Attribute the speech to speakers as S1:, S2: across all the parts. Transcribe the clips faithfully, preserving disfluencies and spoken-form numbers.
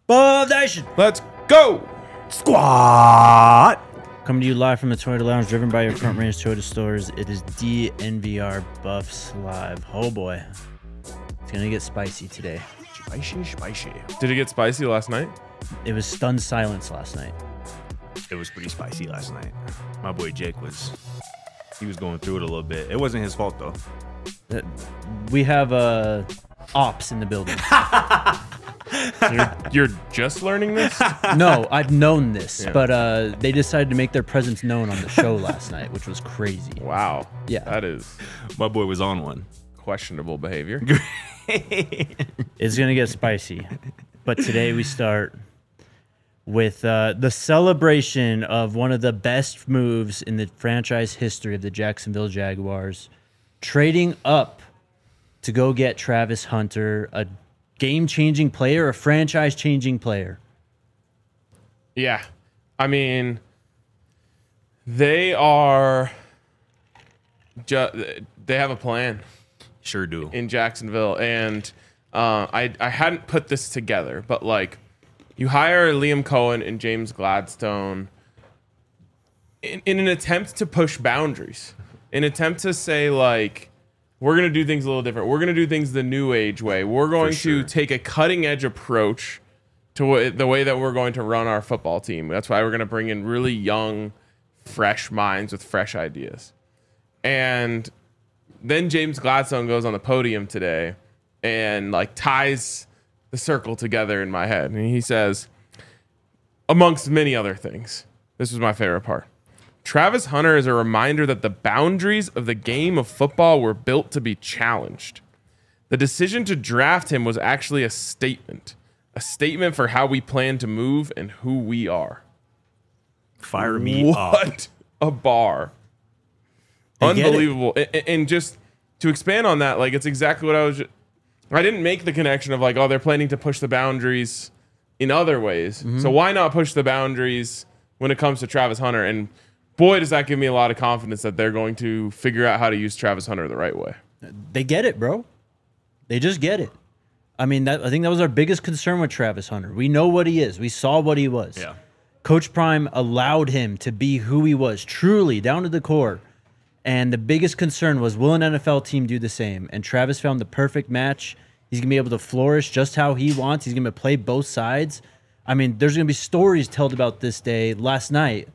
S1: Buff Nation.
S2: Let's go.
S3: Squad.
S1: Coming to you live from the Toyota Lounge, driven by your Front Range Toyota stores. It is D N V R Buffs Live. Oh boy, it's gonna get spicy today.
S3: Spicy, spicy.
S2: Did it get spicy last night?
S1: It was stunned silence last night.
S3: It was pretty spicy last night. My boy Jake was, he was going through it a little bit. It wasn't his fault though.
S1: Uh, We have uh, ops in the building.
S2: You're, you're just learning this?
S1: No, I've known this,
S2: Yeah.
S1: but uh, they decided to make their presence known on the show last night, which was crazy.
S2: Wow.
S1: Yeah.
S2: That is
S3: My boy was on one.
S2: questionable behavior.
S1: It's gonna get spicy, but today we start with uh, the celebration of one of the best moves in the franchise history of the Jacksonville Jaguars, trading up to go get Travis Hunter, a game-changing player, a franchise-changing player.
S2: Yeah. I mean, they are ju- they have a plan
S3: Sure do.
S2: in Jacksonville, and uh, I I hadn't put this together, but like, you hire Liam Cohen and James Gladstone in, in an attempt to push boundaries, in an attempt to say like, we're gonna do things a little different. We're gonna do things the new age way. We're going
S3: sure.
S2: to take a cutting edge approach to wh- the way that we're going to run our football team. That's why we're gonna bring in really young, fresh minds with fresh ideas. And then James Gladstone goes on the podium today and like ties the circle together in my head. And he says, amongst many other things, this was my favorite part. Travis Hunter is a reminder that the boundaries of the game of football were built to be challenged. The decision to draft him was actually a statement, a statement for how we plan to move and who we are.
S3: Fire me up.
S2: What a bar.
S1: They get it.
S2: Unbelievable. A- a- And just to expand on that, like, it's exactly what I was. Ju- I didn't make the connection of like, oh, they're planning to push the boundaries in other ways.
S1: Mm-hmm.
S2: So why not push the boundaries when it comes to Travis Hunter? And boy, does that give me a lot of confidence that they're going to figure out how to use Travis Hunter the right way.
S1: They get it, bro. They just get it. I mean, that I think that was our biggest concern with Travis Hunter. We know what he is. We saw what he was.
S3: Yeah.
S1: Coach Prime allowed him to be who he was, truly, down to the core. And the biggest concern was, will an N F L team do the same? And Travis found the perfect match. He's going to be able to flourish just how he wants. He's going to play both sides. I mean, there's going to be stories told about this day last night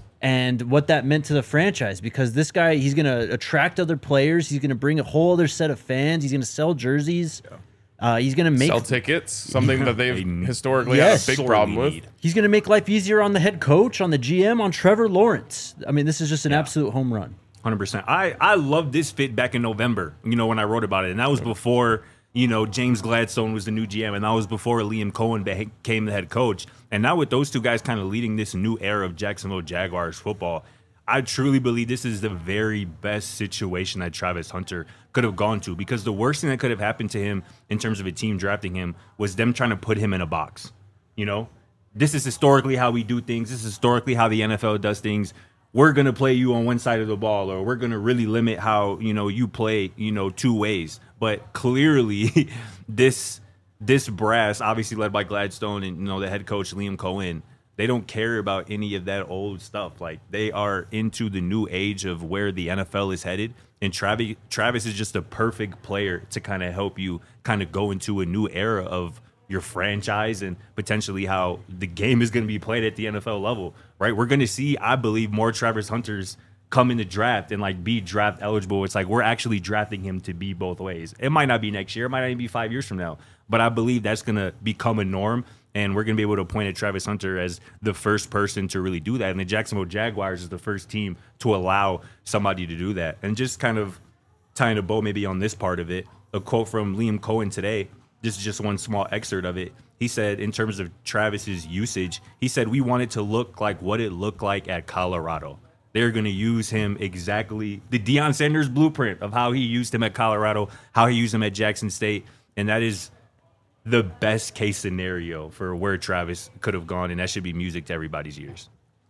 S1: and what that meant to the franchise, because this guy, he's going to attract other players. He's going to bring a whole other set of fans. He's going to sell jerseys. Uh, he's going to make
S2: Sell tickets, something that they've
S3: They
S2: historically
S1: Yes.
S2: had a big
S3: sorely
S2: problem with.
S3: need.
S1: he's going to make life easier on the head coach, on the G M, on Trevor Lawrence. I mean, this is just an absolute home run.
S3: one hundred percent. I, I loved this fit back in November, you know, when I wrote about it. And that was before, you know, James Gladstone was the new G M. And that was before Liam Cohen became the head coach. And now with those two guys kind of leading this new era of Jacksonville Jaguars football, I truly believe this is the very best situation that Travis Hunter could have gone to, because the worst thing that could have happened to him in terms of a team drafting him was them trying to put him in a box. You know, this is historically how we do things. This is historically how the N F L does things. We're going to play you on one side of the ball, or we're going to really limit how, you know, you play, you know, two ways. But clearly this this brass, obviously led by Gladstone and, you know, the head coach Liam Cohen, they don't care about any of that old stuff. Like, they are into the new age of where the N F L is headed. And Travis, Travis is just a perfect player to kind of help you kind of go into a new era of your franchise and potentially how the game is going to be played at the N F L level, right? We're going to see, I believe, more Travis Hunters come in the draft and like be draft eligible. It's like we're actually drafting him to be both ways. It might not be next year. It might not even be five years from now. But I believe that's going to become a norm. And we're going to be able to point at Travis Hunter as the first person to really do that. And the Jacksonville Jaguars is the first team to allow somebody to do that. And just kind of tying a bow maybe on this part of it, a quote from Liam Cohen today. This is just one small excerpt of it. He said, in terms of Travis's usage, he said, we want it to look like what it looked like at Colorado. They're going to use him exactly the Deion Sanders blueprint of how he used him at Colorado, how he used him at Jackson State. And that is the best case scenario for where Travis could have gone. And that should be music to everybody's ears.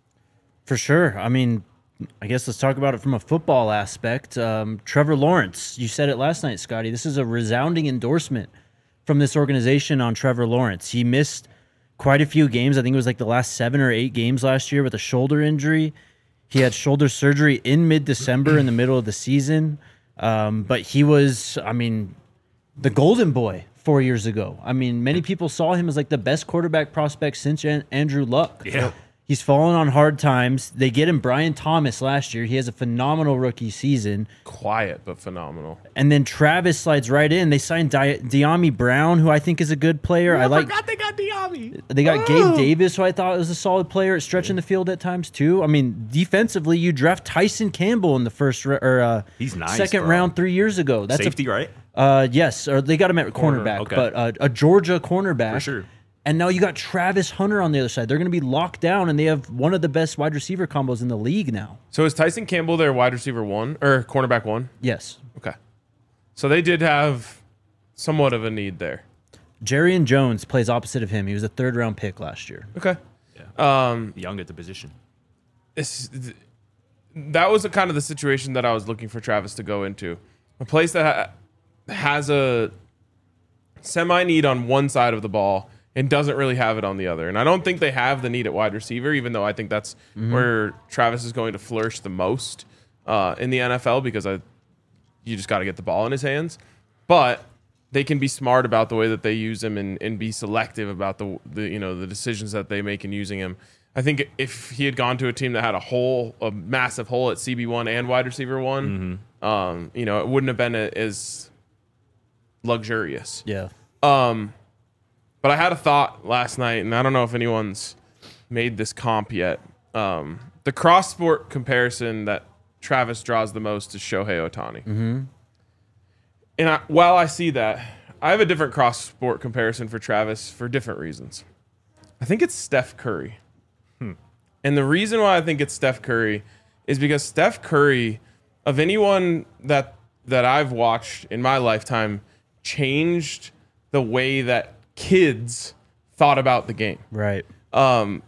S1: For sure. I mean, I guess let's talk about it from a football aspect. Um, Trevor Lawrence, you said it last night, Scotty. This is a resounding endorsement from this organization on Trevor Lawrence. He missed quite a few games. I think it was like the last seven or eight games last year with a shoulder injury. He had shoulder surgery in mid-December in the middle of the season. Um, but he was, I mean, the golden boy four years ago. I mean, many people saw him as like the best quarterback prospect since An- Andrew Luck.
S3: Yeah.
S1: He's fallen on hard times. They get him Brian Thomas last year. He has a phenomenal rookie season.
S2: Quiet, but phenomenal.
S1: And then Travis slides right in. They signed Di- De'Ami Brown, who I think is a good player. I,
S2: I
S1: like.
S2: forgot they got Diami.
S1: They got Gabe Davis, who I thought was a solid player at stretching the field at times too. I mean, defensively, you draft Tyson Campbell in the first ra- or uh,
S3: He's nice,
S1: second
S3: bro.
S1: round three years ago. That's
S3: Safety,
S1: a,
S3: right?
S1: Uh, yes, or they got him at
S3: Corner,
S1: cornerback,
S3: okay.
S1: but uh, a Georgia cornerback
S3: For sure.
S1: And now you got Travis Hunter on the other side. They're going to be locked down, and they have one of the best wide receiver combos in the league now.
S2: So is Tyson Campbell their wide receiver one or cornerback one?
S1: Yes.
S2: Okay. So they did have somewhat of a need there.
S1: Jerrion Jones plays opposite of him. He was a third round pick last year.
S2: Okay.
S3: Yeah.
S2: Um,
S3: Young at the position.
S2: it's, that was the kind of the situation that I was looking for Travis to go into. A place that ha- has a semi need on one side of the ball and doesn't really have it on the other. And I don't think they have the need at wide receiver, even though I think that's mm-hmm. where Travis is going to flourish the most uh, in the N F L because I, you just got to get the ball in his hands. But they can be smart about the way that they use him and, and be selective about the, the you know the decisions that they make in using him. I think if he had gone to a team that had a hole, a massive hole at C B one and wide receiver one, mm-hmm. um, you know, it wouldn't have been a, as luxurious.
S1: Yeah.
S2: Um, but I had a thought last night, and I don't know if anyone's made this comp yet. Um, the cross-sport comparison that Travis draws the most is Shohei Ohtani.
S1: Mm-hmm.
S2: And I, while I see that, I have a different cross-sport comparison for Travis for different reasons. I think it's Steph Curry. Hmm. And the reason why I think it's Steph Curry is because Steph Curry, of anyone that that I've watched in my lifetime, changed the way that kids thought about the game.
S1: Right.
S2: Um,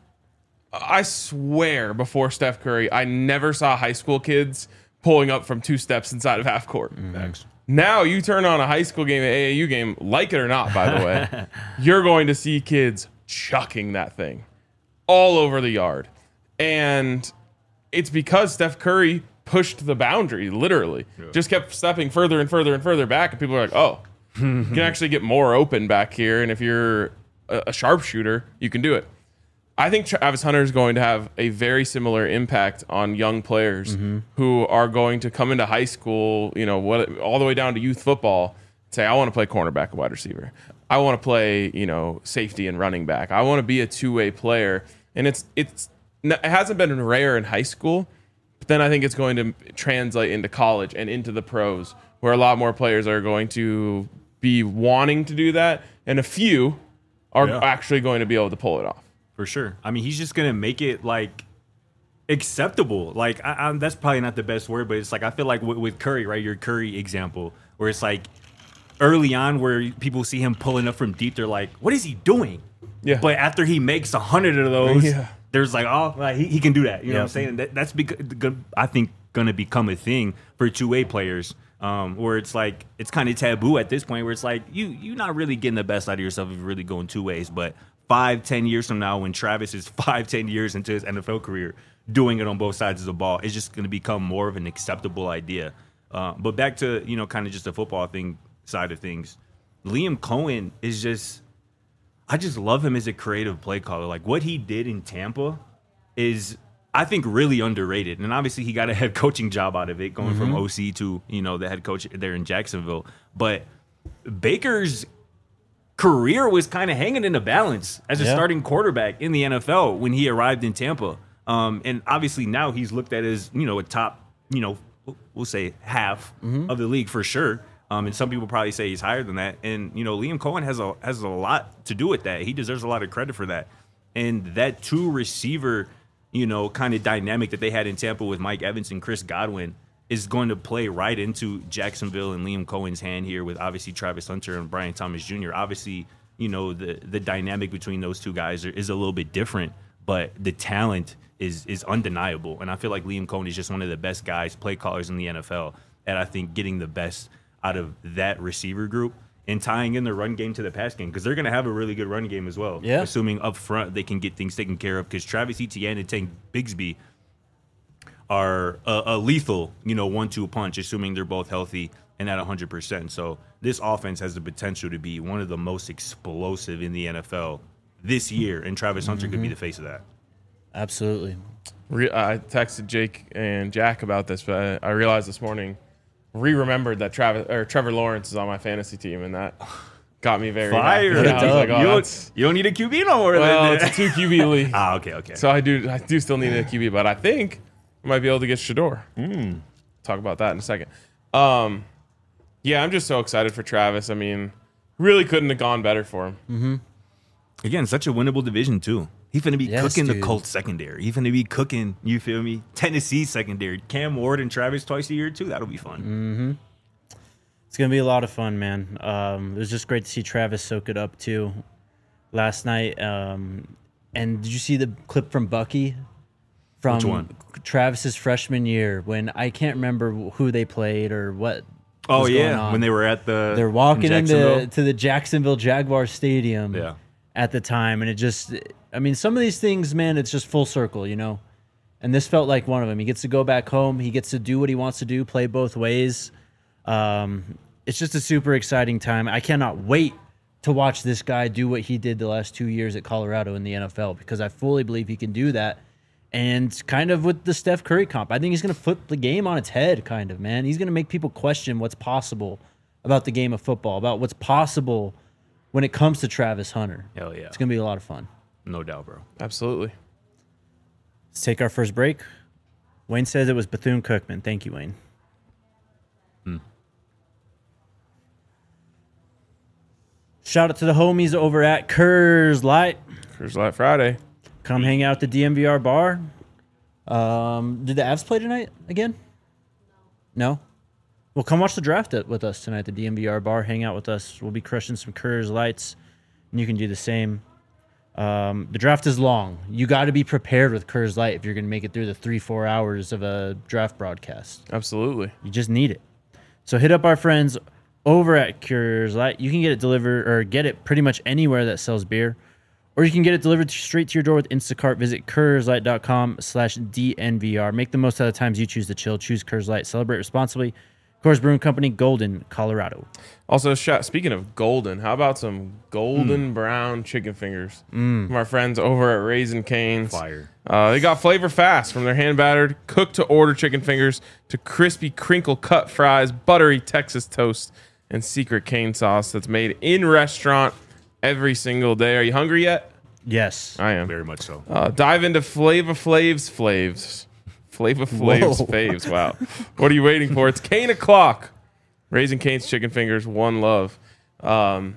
S2: I swear before Steph Curry, I never saw high school kids pulling up from two steps inside of half court.
S3: Mm-hmm.
S2: Now you turn on a high school game, an A A U game, like it or not, by the way, you're going to see kids chucking that thing all over the yard. And it's because Steph Curry pushed the boundary, literally. Yeah. Just kept stepping further and further and further back, and people are like, oh, you can actually get more open back here, and if you're a, a sharpshooter, you can do it. I think Travis Hunter is going to have a very similar impact on young players mm-hmm. who are going to come into high school, you know, what all the way down to youth football, say, I want to play cornerback and wide receiver. I want to play, you know, safety and running back. I want to be a two-way player. And it's it's it hasn't been rare in high school, but then I think it's going to translate into college and into the pros, where a lot more players are going to be wanting to do that, and a few are yeah. actually going to be able to pull it off.
S3: For sure. I mean, he's just going to make it, like, acceptable. Like, I, I, that's probably not the best word, but it's like, I feel like with, with Curry, right, your Curry example, where it's like early on where people see him pulling up from deep, they're like, what is he doing?
S2: Yeah.
S3: But after he makes a hundred of those,
S2: yeah.
S3: there's like, oh, like, he, he can do that. You know yeah. what I'm saying? That, that's, bec- I think, going to become a thing for two-way players. Um, where it's like it's kind of taboo at this point, where it's like you you're not really getting the best out of yourself if you're really going two ways. But five, ten years from now, when Travis is five, ten years into his N F L career, doing it on both sides of the ball, it's just going to become more of an acceptable idea. Uh, but back to you know kind of just the football thing side of things, Liam Cohen is just I just love him as a creative play caller. Like what he did in Tampa is, I think, really underrated. And obviously he got a head coaching job out of it, going mm-hmm. from O C to, you know, the head coach there in Jacksonville. But Baker's career was kind of hanging in the balance as a yeah. starting quarterback in the N F L when he arrived in Tampa. Um, and obviously now he's looked at as, you know, a top, you know, we'll say half mm-hmm. of the league for sure. Um, and some people probably say he's higher than that. And, you know, Liam Cohen has a has a lot to do with that. He deserves a lot of credit for that. And that two receiver you know, kind of dynamic that they had in Tampa with Mike Evans and Chris Godwin is going to play right into Jacksonville and Liam Cohen's hand here with obviously Travis Hunter and Brian Thomas Junior Obviously, you know, the the dynamic between those two guys are, is a little bit different, but the talent is is undeniable. And I feel like Liam Cohen is just one of the best guys, play callers in the N F L, and I think getting the best out of that receiver group and tying in the run game to the pass game because they're going to have a really good run game as well.
S1: Yeah.
S3: Assuming up front they can get things taken care of because Travis Etienne and Tank Bigsby are a, a lethal, you know, one two punch, assuming they're both healthy and at one hundred percent. So this offense has the potential to be one of the most explosive in the N F L this year, and Travis Hunter
S1: Mm-hmm.
S3: could be the face of that.
S1: Absolutely.
S2: Re- I texted Jake and Jack about this, but I realized this morning, re-remembered that Travis or Trevor Lawrence is on my fantasy team, and that got me very
S3: Fire!
S2: happy. Yeah, I was like, oh,
S3: you,
S2: that's-
S3: don't, you don't need a Q B no more.
S2: well,
S3: than
S2: it's a
S3: that.
S2: two Q B league,
S3: Ah, okay, okay.
S2: so I do I do still need a Q B, but I think I might be able to get Shador.
S3: Mm.
S2: Talk about that in a second. Um, yeah, I'm just so excited for Travis. I mean, really couldn't have gone better for him.
S3: Again, such a winnable division too. He's finna be
S1: Yes,
S3: cooking the
S1: dude.
S3: Colts secondary. He's finna be cooking, you feel me? Tennessee secondary. Cam Ward and Travis twice a year too. That'll be fun.
S1: It's gonna be a lot of fun, man. Um, it was just great to see Travis soak it up too last night. Um, and did you see the clip from Bucky from
S3: Which one?
S1: Travis's freshman year when I can't remember who they played or what?
S3: Oh
S1: was going
S3: yeah,
S1: on.
S3: when they were at the
S1: They're walking
S3: in
S1: into
S3: Jacksonville.
S1: to the Jacksonville Jaguar Stadium
S3: Yeah.
S1: at the time, and it just, I mean, some of these things, man, it's just full circle, you know. And this felt like one of them. He gets to go back home. He gets to do what he wants to do, play both ways. Um, it's just a super exciting time. I cannot wait to watch this guy do what he did the last two years at Colorado in the N F L because I fully believe he can do that. And kind of with the Steph Curry comp, I think he's going to flip the game on its head, kind of, man. He's going to make people question what's possible about the game of football, about what's possible when it comes to Travis Hunter.
S3: Hell yeah.
S1: It's going to be a lot of fun.
S3: No doubt, bro.
S2: Absolutely.
S1: Let's take our first break. Wayne says it was Bethune-Cookman. Thank you, Wayne. Shout out to the homies over at Kerrs Light.
S2: Cruise Light Friday.
S1: Come hang out at the D M V R bar. Um, did the Avs play tonight again? No? Well, come watch the draft it with us tonight at the D M V R bar. Hang out with us. We'll be crushing some Kerrs Lights, and you can do the same. Um, the draft is long. You got to be prepared with Kerrs Light if you're going to make it through the three, four hours of a draft broadcast.
S2: Absolutely.
S1: You just need it. So hit up our friends over at Kerrs Light. You can get it delivered or get it pretty much anywhere that sells beer. Or you can get it delivered straight to your door with Instacart. Visit KersLight.com slash DNVR. Make the most out of the times you choose to chill. Choose Kerrs Light. Celebrate responsibly. Coors Brewing Company, Golden, Colorado.
S2: Also, sh- speaking of golden, how about some golden brown chicken fingers from our friends over at Raising Cane's?
S3: Fire.
S2: Uh, they got flavor fast from their hand battered, cooked to order chicken fingers to crispy crinkle cut fries, buttery Texas toast, and secret cane sauce that's made in restaurant every single day. Are you hungry yet?
S1: Yes.
S2: I am.
S3: Very much so.
S2: Uh, dive into Flava Flav's Flavs. Flava Flav's
S1: Whoa.
S2: Faves. Wow. What are you waiting for? It's Cane o'clock. Raising Cane's chicken fingers. One love. Um,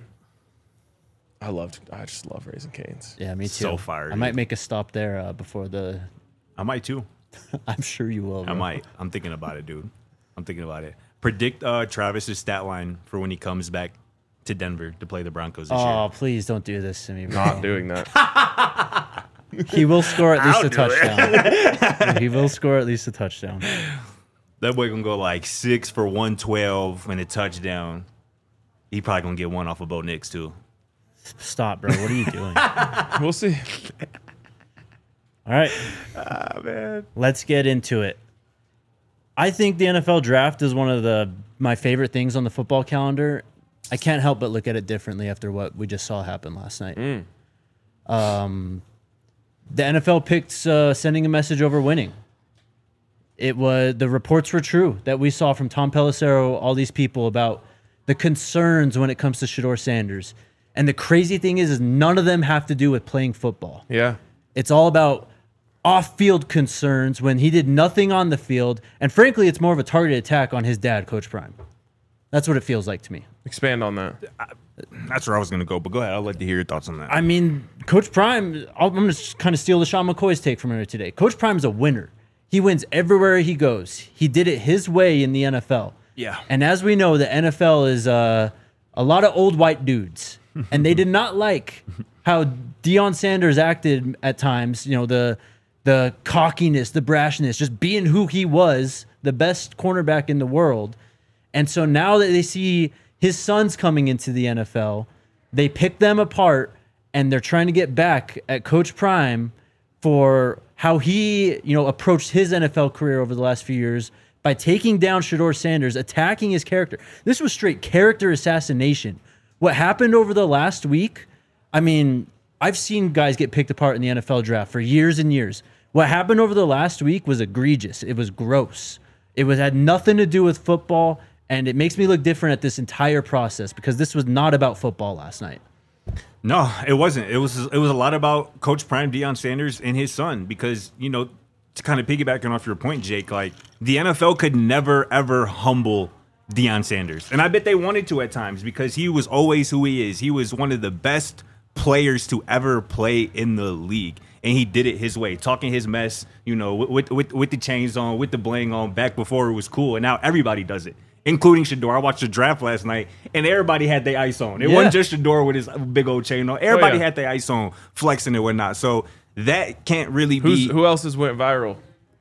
S2: I loved. I just love Raising Cane's.
S1: Yeah, me too.
S3: So fire,
S1: I might
S3: dude.
S1: make a stop there uh, before the...
S3: I might too.
S1: I'm sure you will.
S3: I
S1: bro.
S3: might. I'm thinking about it, dude. I'm thinking about it. Predict uh, Travis's stat line for when he comes back to Denver to play the Broncos this
S1: Oh,
S3: year.
S1: please don't do this to me, bro.
S2: Not doing that.
S1: He will score at least
S3: I'll
S1: a
S3: do it.
S1: touchdown. He will score at least a touchdown.
S3: That boy gonna go like six for one twelve and a touchdown. He probably gonna get one off of Bo Nix too.
S1: Stop, bro. What are you doing?
S2: We'll see.
S1: All right.
S3: Ah man.
S1: Let's get into it. I think the N F L draft is one of the my favorite things on the football calendar. I can't help but look at it differently after what we just saw happen last night. Um, the N F L picked uh, sending a message over winning. It was the reports were true that we saw from Tom Pelissero, all these people about the concerns when it comes to Shador Sanders. And the crazy thing is, is none of them have to do with playing football.
S2: Yeah.
S1: It's all about off-field concerns when he did nothing on the field. And frankly, it's more of a targeted attack on his dad, Coach Prime. That's what it feels like to me.
S2: Expand on that.
S3: That's where I was gonna go, but go ahead. I'd like to hear your thoughts on that.
S1: I mean, Coach Prime, I'm going to kind of steal the Sean McCoy's take from earlier today. Coach Prime's a winner. He wins everywhere he goes. He did it his way in the N F L.
S3: Yeah.
S1: And as we know, the N F L is uh, a lot of old white dudes. And they did not like how Deion Sanders acted at times, you know, the the cockiness, the brashness, just being who he was, the best cornerback in the world. And so now that they see His son's coming into the N F L. They pick them apart, and they're trying to get back at Coach Prime for how he, you know, approached his N F L career over the last few years by taking down Shedeur Sanders, attacking his character. This was straight character assassination. What happened over the last week, I mean, I've seen guys get picked apart in the N F L draft for years and years. What happened over the last week was egregious. It was gross. It was had nothing to do with football, and it makes me look different at this entire process because this was not about football last night.
S3: No, it wasn't. It was it was a lot about Coach Prime, Deion Sanders, and his son because, you know, to kind of piggybacking off your point, Jake, like the N F L could never, ever humble Deion Sanders. And I bet they wanted to at times because he was always who he is. He was one of the best players to ever play in the league. And he did it his way, talking his mess, you know, with, with, with the chains on, with the bling on, back before it was cool. And now everybody does it, including Shedeur. I watched the draft last night, and everybody had their ice on. It
S1: Yeah.
S3: wasn't just Shedeur with his big old chain on. Everybody
S2: Oh, yeah.
S3: had their ice on, flexing and whatnot. So that can't really
S2: Who's,
S3: be
S2: who else has went viral?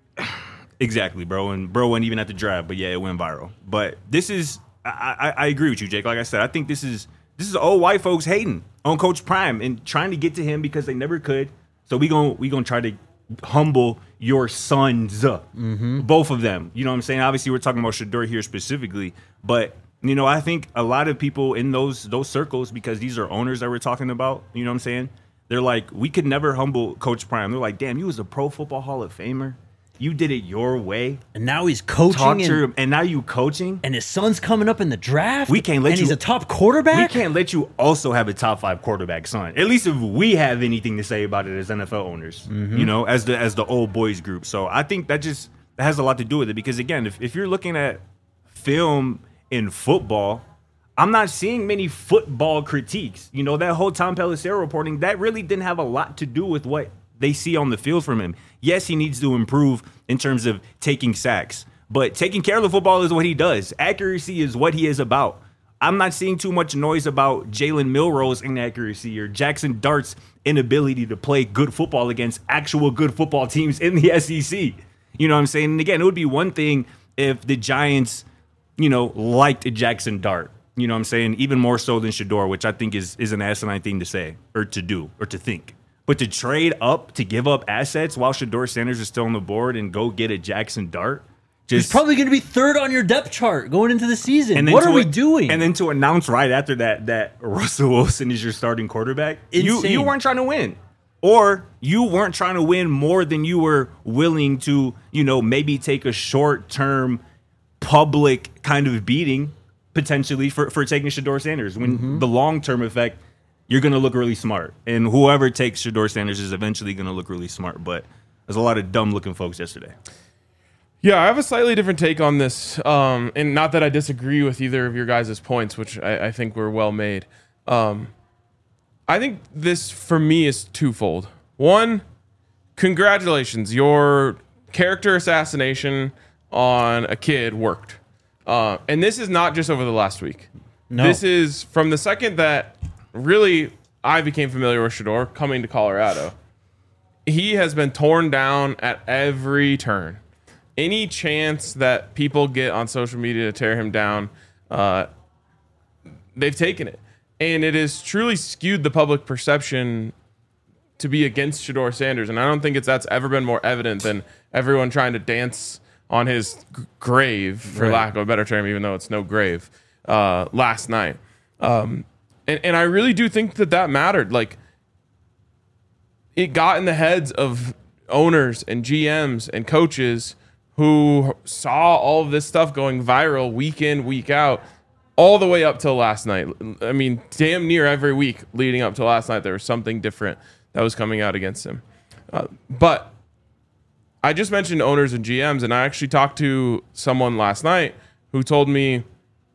S3: exactly, bro. And bro wasn't even at the draft, but yeah, it went viral. But this is, I, I, I agree with you, Jake. Like I said, I think this is this is old white folks hating on Coach Prime and trying to get to him because they never could. So we gon' we gonna try to humble your sons, mm-hmm. both of them. You know what I'm saying? Obviously, we're talking about Shedeur here specifically, but you know, I think a lot of people in those those circles, because these are owners that we're talking about. You know what I'm saying? They're like, we could never humble Coach Prime. They're like, damn, you was a Pro Football Hall of Famer. You did it your way.
S1: And now he's coaching,
S3: Talk to
S1: and,
S3: him, and now you coaching.
S1: and his son's coming up in the draft.
S3: We can't let
S1: and
S3: you-
S1: he's a top quarterback.
S3: We can't let you also have a top five quarterback son. At least if we have anything to say about it as N F L owners,
S1: Mm-hmm.
S3: you know, as the as the old boys group. So I think that just that has a lot to do with it because again, if, if you're looking at film in football, I'm not seeing many football critiques. You know, that whole Tom Pelissero reporting, that really didn't have a lot to do with what they see on the field from him. Yes, he needs to improve in terms of taking sacks, but taking care of the football is what he does. Accuracy is what he is about. I'm not seeing too much noise about Jalen Milroe's inaccuracy or Jackson Dart's inability to play good football against actual good football teams in the S E C. You know what I'm saying? And again, it would be one thing if the Giants, you know, liked Jackson Dart. You know what I'm saying? Even more so than Shedeur, which I think is, is an asinine thing to say or to do or to think. But to trade up, to give up assets while Shedeur Sanders is still on the board and go get a Jackson Dart, just
S1: He's probably going to be third on your depth chart going into the season.
S3: and then
S1: What
S3: to
S1: are we
S3: a-
S1: doing?
S3: And then to announce right after that that Russell Wilson is your starting quarterback, you
S1: Insane.
S3: you weren't trying to win. Or you weren't trying to win more than you were willing to, you know, maybe take a short-term public kind of beating potentially for, for taking Shedeur Sanders. When
S1: Mm-hmm.
S3: the long-term effect, you're going to look really smart. And whoever takes Shedeur Sanders is eventually going to look really smart. But there's a lot of dumb-looking folks yesterday.
S2: Yeah, I have a slightly different take on this, um, and not that I disagree with either of your guys' points, which I, I think were well made. Um, I think this, for me, is twofold. One, congratulations. Your character assassination on a kid worked. Uh, and this is not just over the last week.
S1: No.
S2: This is from the second that really I became familiar with Shedeur coming to Colorado. He has been torn down at every turn. Any chance that people get on social media to tear him down, uh, they've taken it. And it has truly skewed the public perception to be against Shedeur Sanders. And I don't think it's that's ever been more evident than everyone trying to dance on his g- grave, for
S1: Right.
S2: lack of a better term, even though it's no grave, uh, last night. Um, and, and I really do think that that mattered. Like, it got in the heads of owners and G Ms and coaches who saw all of this stuff going viral week in, week out, all the way up till last night. I mean, damn near every week leading up to last night, there was something different that was coming out against him. Uh, but I just mentioned owners and G Ms, and I actually talked to someone last night who told me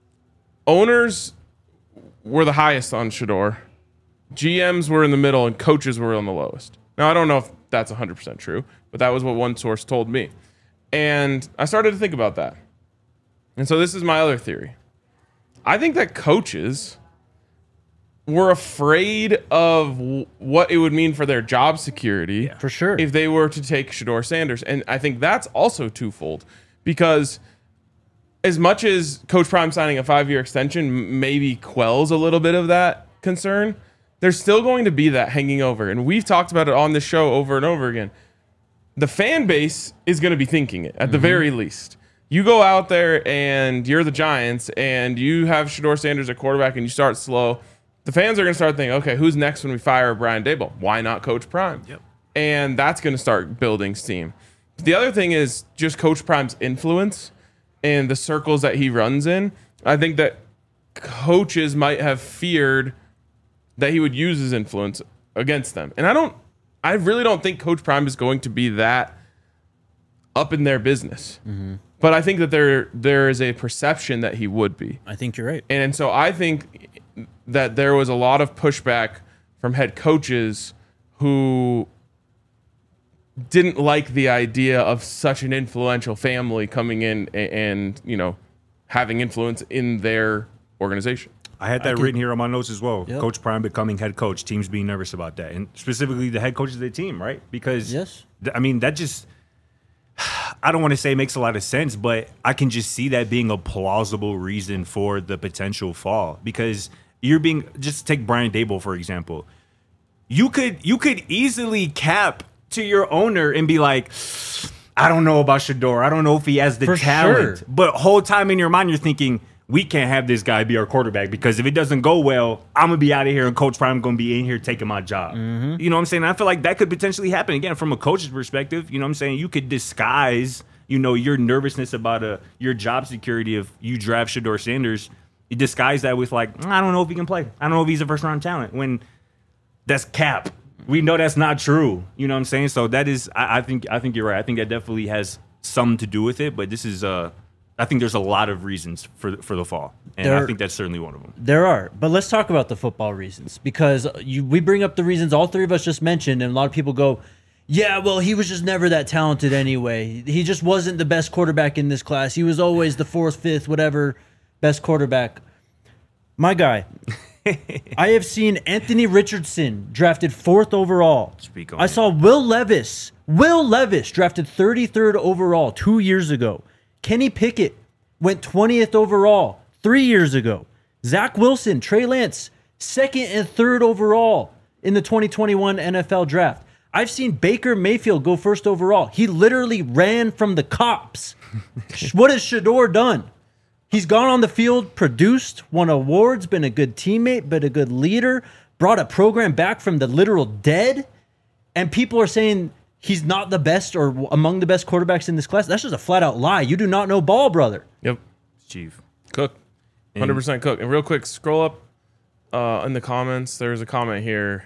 S2: owners were the highest on Shedeur, G Ms were in the middle, and coaches were on the lowest. Now, I don't know if that's one hundred percent true, but that was what one source told me. And I started to think about that. And so this is my other theory. I think that coaches were afraid of w- what it would mean for their job security
S1: For sure.
S2: if they were to take Shedeur Sanders. And I think that's also twofold because as much as Coach Prime signing a five-year extension m- maybe quells a little bit of that concern, there's still going to be that hanging over. And we've talked about it on this show over and over again. The fan base is going to be thinking it, at mm-hmm. the very least. You go out there and you're the Giants and you have Shedeur Sanders at quarterback and you start slow. The fans are going to start thinking, okay, who's next when we fire Brian Daboll? Why not Coach Prime?
S3: Yep.
S2: And that's going to start building steam. The other thing is just Coach Prime's influence and the circles that he runs in. I think that coaches might have feared that he would use his influence against them. And I don't, I really don't think Coach Prime is going to be that up in their business. Mm-hmm. But I think that there there is a perception that he would be.
S1: I think you're right.
S2: And, and so I think that there was a lot of pushback from head coaches who didn't like the idea of such an influential family coming in and, and you know, having influence in their organization.
S3: I had that
S1: I
S3: written
S1: can,
S3: here on my notes as well.
S1: Yep.
S3: Coach Prime becoming head coach, teams being nervous about that, and specifically the head coach of the team, right? Because,
S1: yes.
S3: th- I mean, that just, I don't want to say it makes a lot of sense, but I can just see that being a plausible reason for the potential fall. Because you're being, just take Brian Daboll, for example. You could you could easily cap to your owner and be like, I don't know about Shedeur. I don't know if he has the
S1: For
S3: talent.
S1: sure.
S3: But whole time in your mind, you're thinking, we can't have this guy be our quarterback because if it doesn't go well, I'm going to be out of here and Coach Prime going to be in here taking my job. Mm-hmm. You know what I'm saying? I feel like that could potentially happen. Again, from a coach's perspective, you know what I'm saying? You could disguise, you know, your nervousness about a, your job security if you draft Shedeur Sanders. You disguise that with like, I don't know if he can play. I don't know if he's a first-round talent. When that's cap. We know that's not true. You know what I'm saying? So that is, I, I think, I think you're right. I think that definitely has some to do with it. But this is, uh, I think there's a lot of reasons for for the fall, and
S1: there,
S3: I think that's certainly one of them.
S1: There are, but let's talk about the football reasons because you, we bring up the reasons all three of us just mentioned, and a lot of people go, "Yeah, well, he was just never that talented anyway. He just wasn't the best quarterback in this class. He was always the fourth, fifth, whatever, best quarterback." My guy. I have seen Anthony Richardson drafted fourth overall.
S3: Speak on
S1: I
S3: it.
S1: saw Will Levis. Will Levis drafted thirty-third overall two years ago. Kenny Pickett went twentieth overall three years ago. Zach Wilson, Trey Lance, second and third overall in the twenty twenty-one N F L draft. I've seen Baker Mayfield go first overall. He literally ran from the cops. What has Shedeur done? He's gone on the field, produced, won awards, been a good teammate, been a good leader, brought a program back from the literal dead, and people are saying he's not the best or among the best quarterbacks in this class. That's just a flat-out lie. You do not know ball, brother.
S2: Yep.
S3: Chief.
S2: Cook. one hundred percent Cook. And real quick, scroll up uh, in the comments. There's a comment here.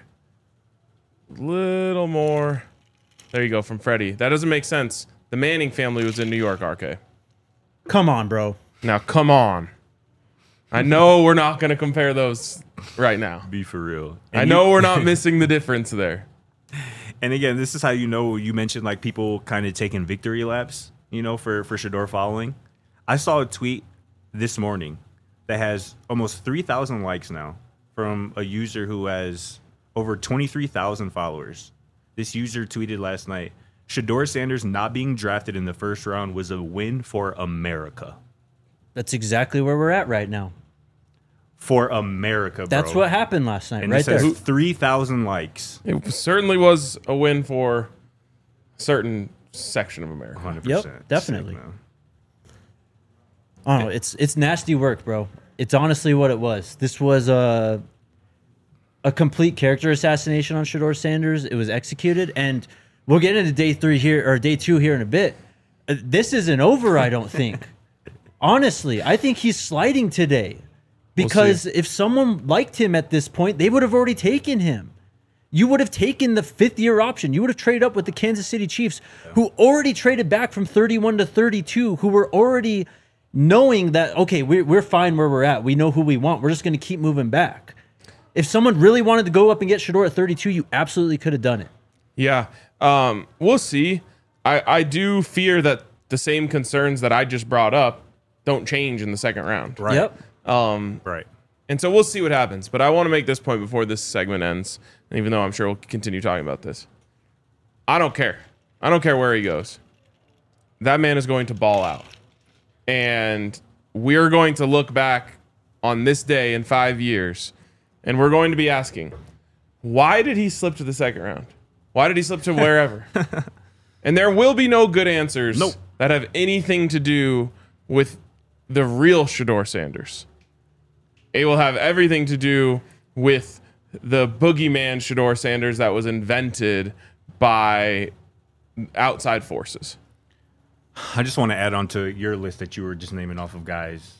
S2: Little more. There you go, from Freddie. That doesn't make sense. The Manning family was in New York, R K.
S1: Come on, bro.
S2: Now, come on. I know we're not going to compare those right now.
S3: Be for real.
S2: I
S3: And
S2: know
S3: you-
S2: we're not missing the difference there.
S3: And again, this is how you know you mentioned like people kind of taking victory laps, you know, for, for Shedeur following. I saw a tweet this morning that has almost three thousand likes now from a user who has over twenty-three thousand followers. This user tweeted last night, Shedeur Sanders not being drafted in the first round was a win for America.
S1: That's exactly where we're at right now.
S3: For America, bro.
S1: That's what happened last night,
S3: and
S1: right
S3: this has
S1: there.
S3: three thousand likes.
S2: It certainly was a win for a certain section of America.
S3: one hundred percent.
S1: Yep, definitely.
S3: Sick, man.
S1: I don't know. It's it's nasty work, bro. It's honestly what it was. This was a a complete character assassination on Shedeur Sanders. It was executed, and we'll get into day three here or day two here in a bit. Uh, This isn't over, I don't think. Honestly, I think he's sliding today because
S2: see.
S1: if someone liked him at this point, they would have already taken him. You would have taken the fifth year option. You would have traded up with the Kansas City Chiefs, who already traded back from thirty-one to thirty-two, who were already knowing that, okay, we're, we're fine where we're at. We know who we want. We're just going to keep moving back. If someone really wanted to go up and get Shedeur at thirty-two, you absolutely could have done it.
S2: Yeah. Um, we'll see. I, I do fear that the same concerns that I just brought up don't change in the second round.
S3: Right.
S1: Yep.
S2: Um,
S3: Right.
S2: and so we'll see what happens. But I want to make this point before this segment ends. And even though I'm sure we'll continue talking about this, I don't care. I don't care where he goes. That man is going to ball out. And we're going to look back on this day in five years, and we're going to be asking, why did he slip to the second round? Why did he slip to wherever? And there will be no good answers
S3: Nope.
S2: that have anything to do with the real Shedeur Sanders. It will have everything to do with the boogeyman Shedeur Sanders that was invented by outside forces.
S3: I just want to add on to your list that you were just naming off of guys.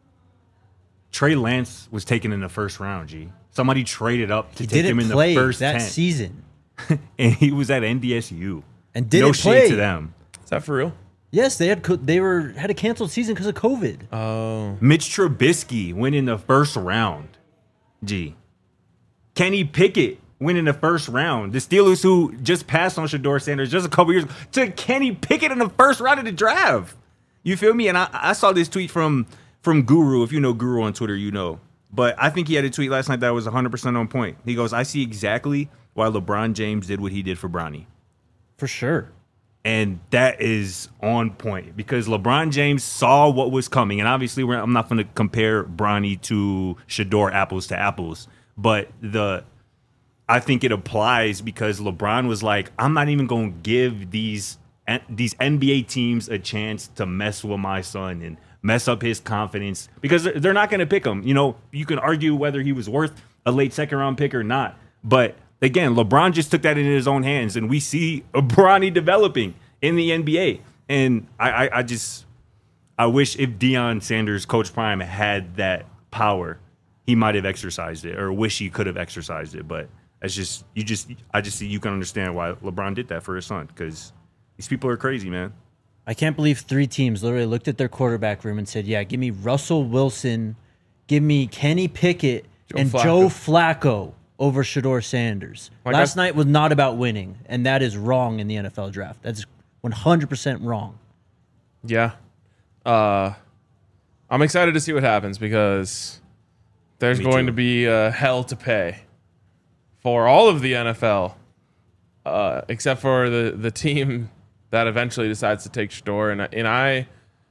S3: Trey Lance was taken in the first round, G. Somebody traded up to
S1: He
S3: take him
S1: didn't
S3: in
S1: play
S3: the first
S1: that
S3: ten.
S1: season
S3: And he was at N D S U.
S1: and didn't
S3: no
S1: play.
S3: shade to them.
S2: Is that for real?
S1: Yes, they had co- they were had a canceled season because of COVID.
S2: Oh.
S3: Mitch Trubisky went in the first round. G. Kenny Pickett went in the first round. The Steelers, who just passed on Shedeur Sanders just a couple years ago, took Kenny Pickett in the first round of the draft. You feel me? And I, I saw this tweet from from Guru. If you know Guru on Twitter, you know. But I think he had a tweet last night that was one hundred percent on point. He goes, I see exactly why LeBron James did what he did for Bronny.
S1: For sure.
S3: And that is on point because LeBron James saw what was coming. And obviously, we're, I'm not going to compare Bronny to Shedeur apples to apples. But the I think it applies because LeBron was like, I'm not even going to give these these N B A teams a chance to mess with my son and mess up his confidence because they're not going to pick him. You know, you can argue whether he was worth a late second round pick or not. But again, LeBron just took that in his own hands, and we see a Bronny developing in the N B A. And I, I, I just, I wish if Deion Sanders, Coach Prime, had that power, he might have exercised it, or wish he could have exercised it. But it's just, you just, I just see you can understand why LeBron did that for his son because these people are crazy, man.
S1: I can't believe three teams literally looked at their quarterback room and said, yeah, give me Russell Wilson, give me Kenny Pickett,
S2: Joe
S1: and
S2: Flacco.
S1: Joe Flacco over Shedeur Sanders.
S2: Like
S1: Last
S2: I-
S1: night was not about winning, and that is wrong in the N F L draft. That's one hundred percent wrong.
S2: Yeah. Uh, I'm excited to see what happens because there's
S3: Me
S2: going
S3: too.
S2: to be uh, hell to pay for all of the N F L, uh, except for the, the team that eventually decides to take Shedeur. And, and I,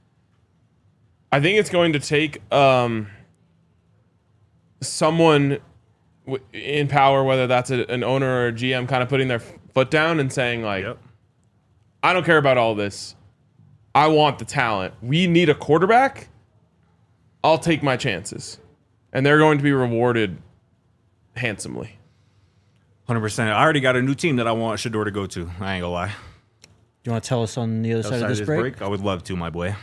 S2: I think it's going to take um, someone w- in power, whether that's a, an owner or a G M, kind of putting their foot down and saying, like,
S3: Yep.
S2: I don't care about all this. I want the talent. We need a quarterback. I'll take my chances. And they're going to be rewarded handsomely.
S3: one hundred percent. I already got a new team that I want Shedeur to go to. I ain't gonna lie.
S1: You want to tell us on the other side
S3: Outside
S1: of this break?
S3: I would love to, my boy.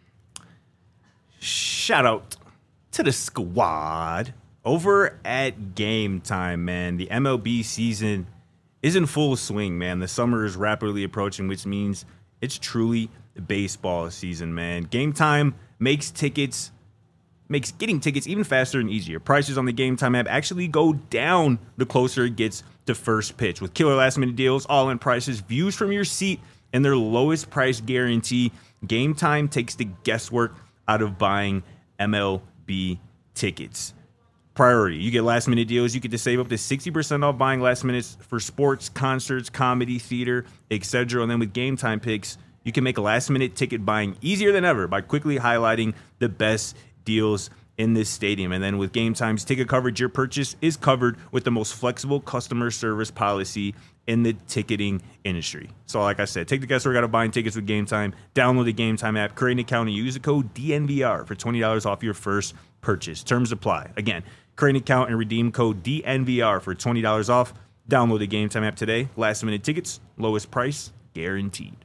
S3: Shout out to the squad over at Game Time, man. The M L B season is in full swing, man. The summer is rapidly approaching, which means it's truly baseball season, man. Game Time makes tickets, makes getting tickets even faster and easier. Prices on the Game Time app actually go down the closer it gets to first pitch. With killer last minute deals, all-in prices, views from your seat, and their lowest price guarantee, Game Time takes the guesswork out of buying M L B tickets. Priority. You get last minute deals. You get to save up to sixty percent off buying last minutes for sports, concerts, comedy, theater, et cetera. And then with Game Time picks, you can make last minute ticket buying easier than ever by quickly highlighting the best deals in this stadium. And then with Game Time's ticket coverage, your purchase is covered with the most flexible customer service policy in the ticketing industry. So like I said, take the guesswork out of buying tickets with Game Time. Download the Game Time app, create an account, and use the code D N V R for twenty dollars off your first purchase. Terms apply. Again, create an account and redeem code D N V R for twenty dollars off. Download the Game Time app today. Last minute tickets, lowest price guaranteed.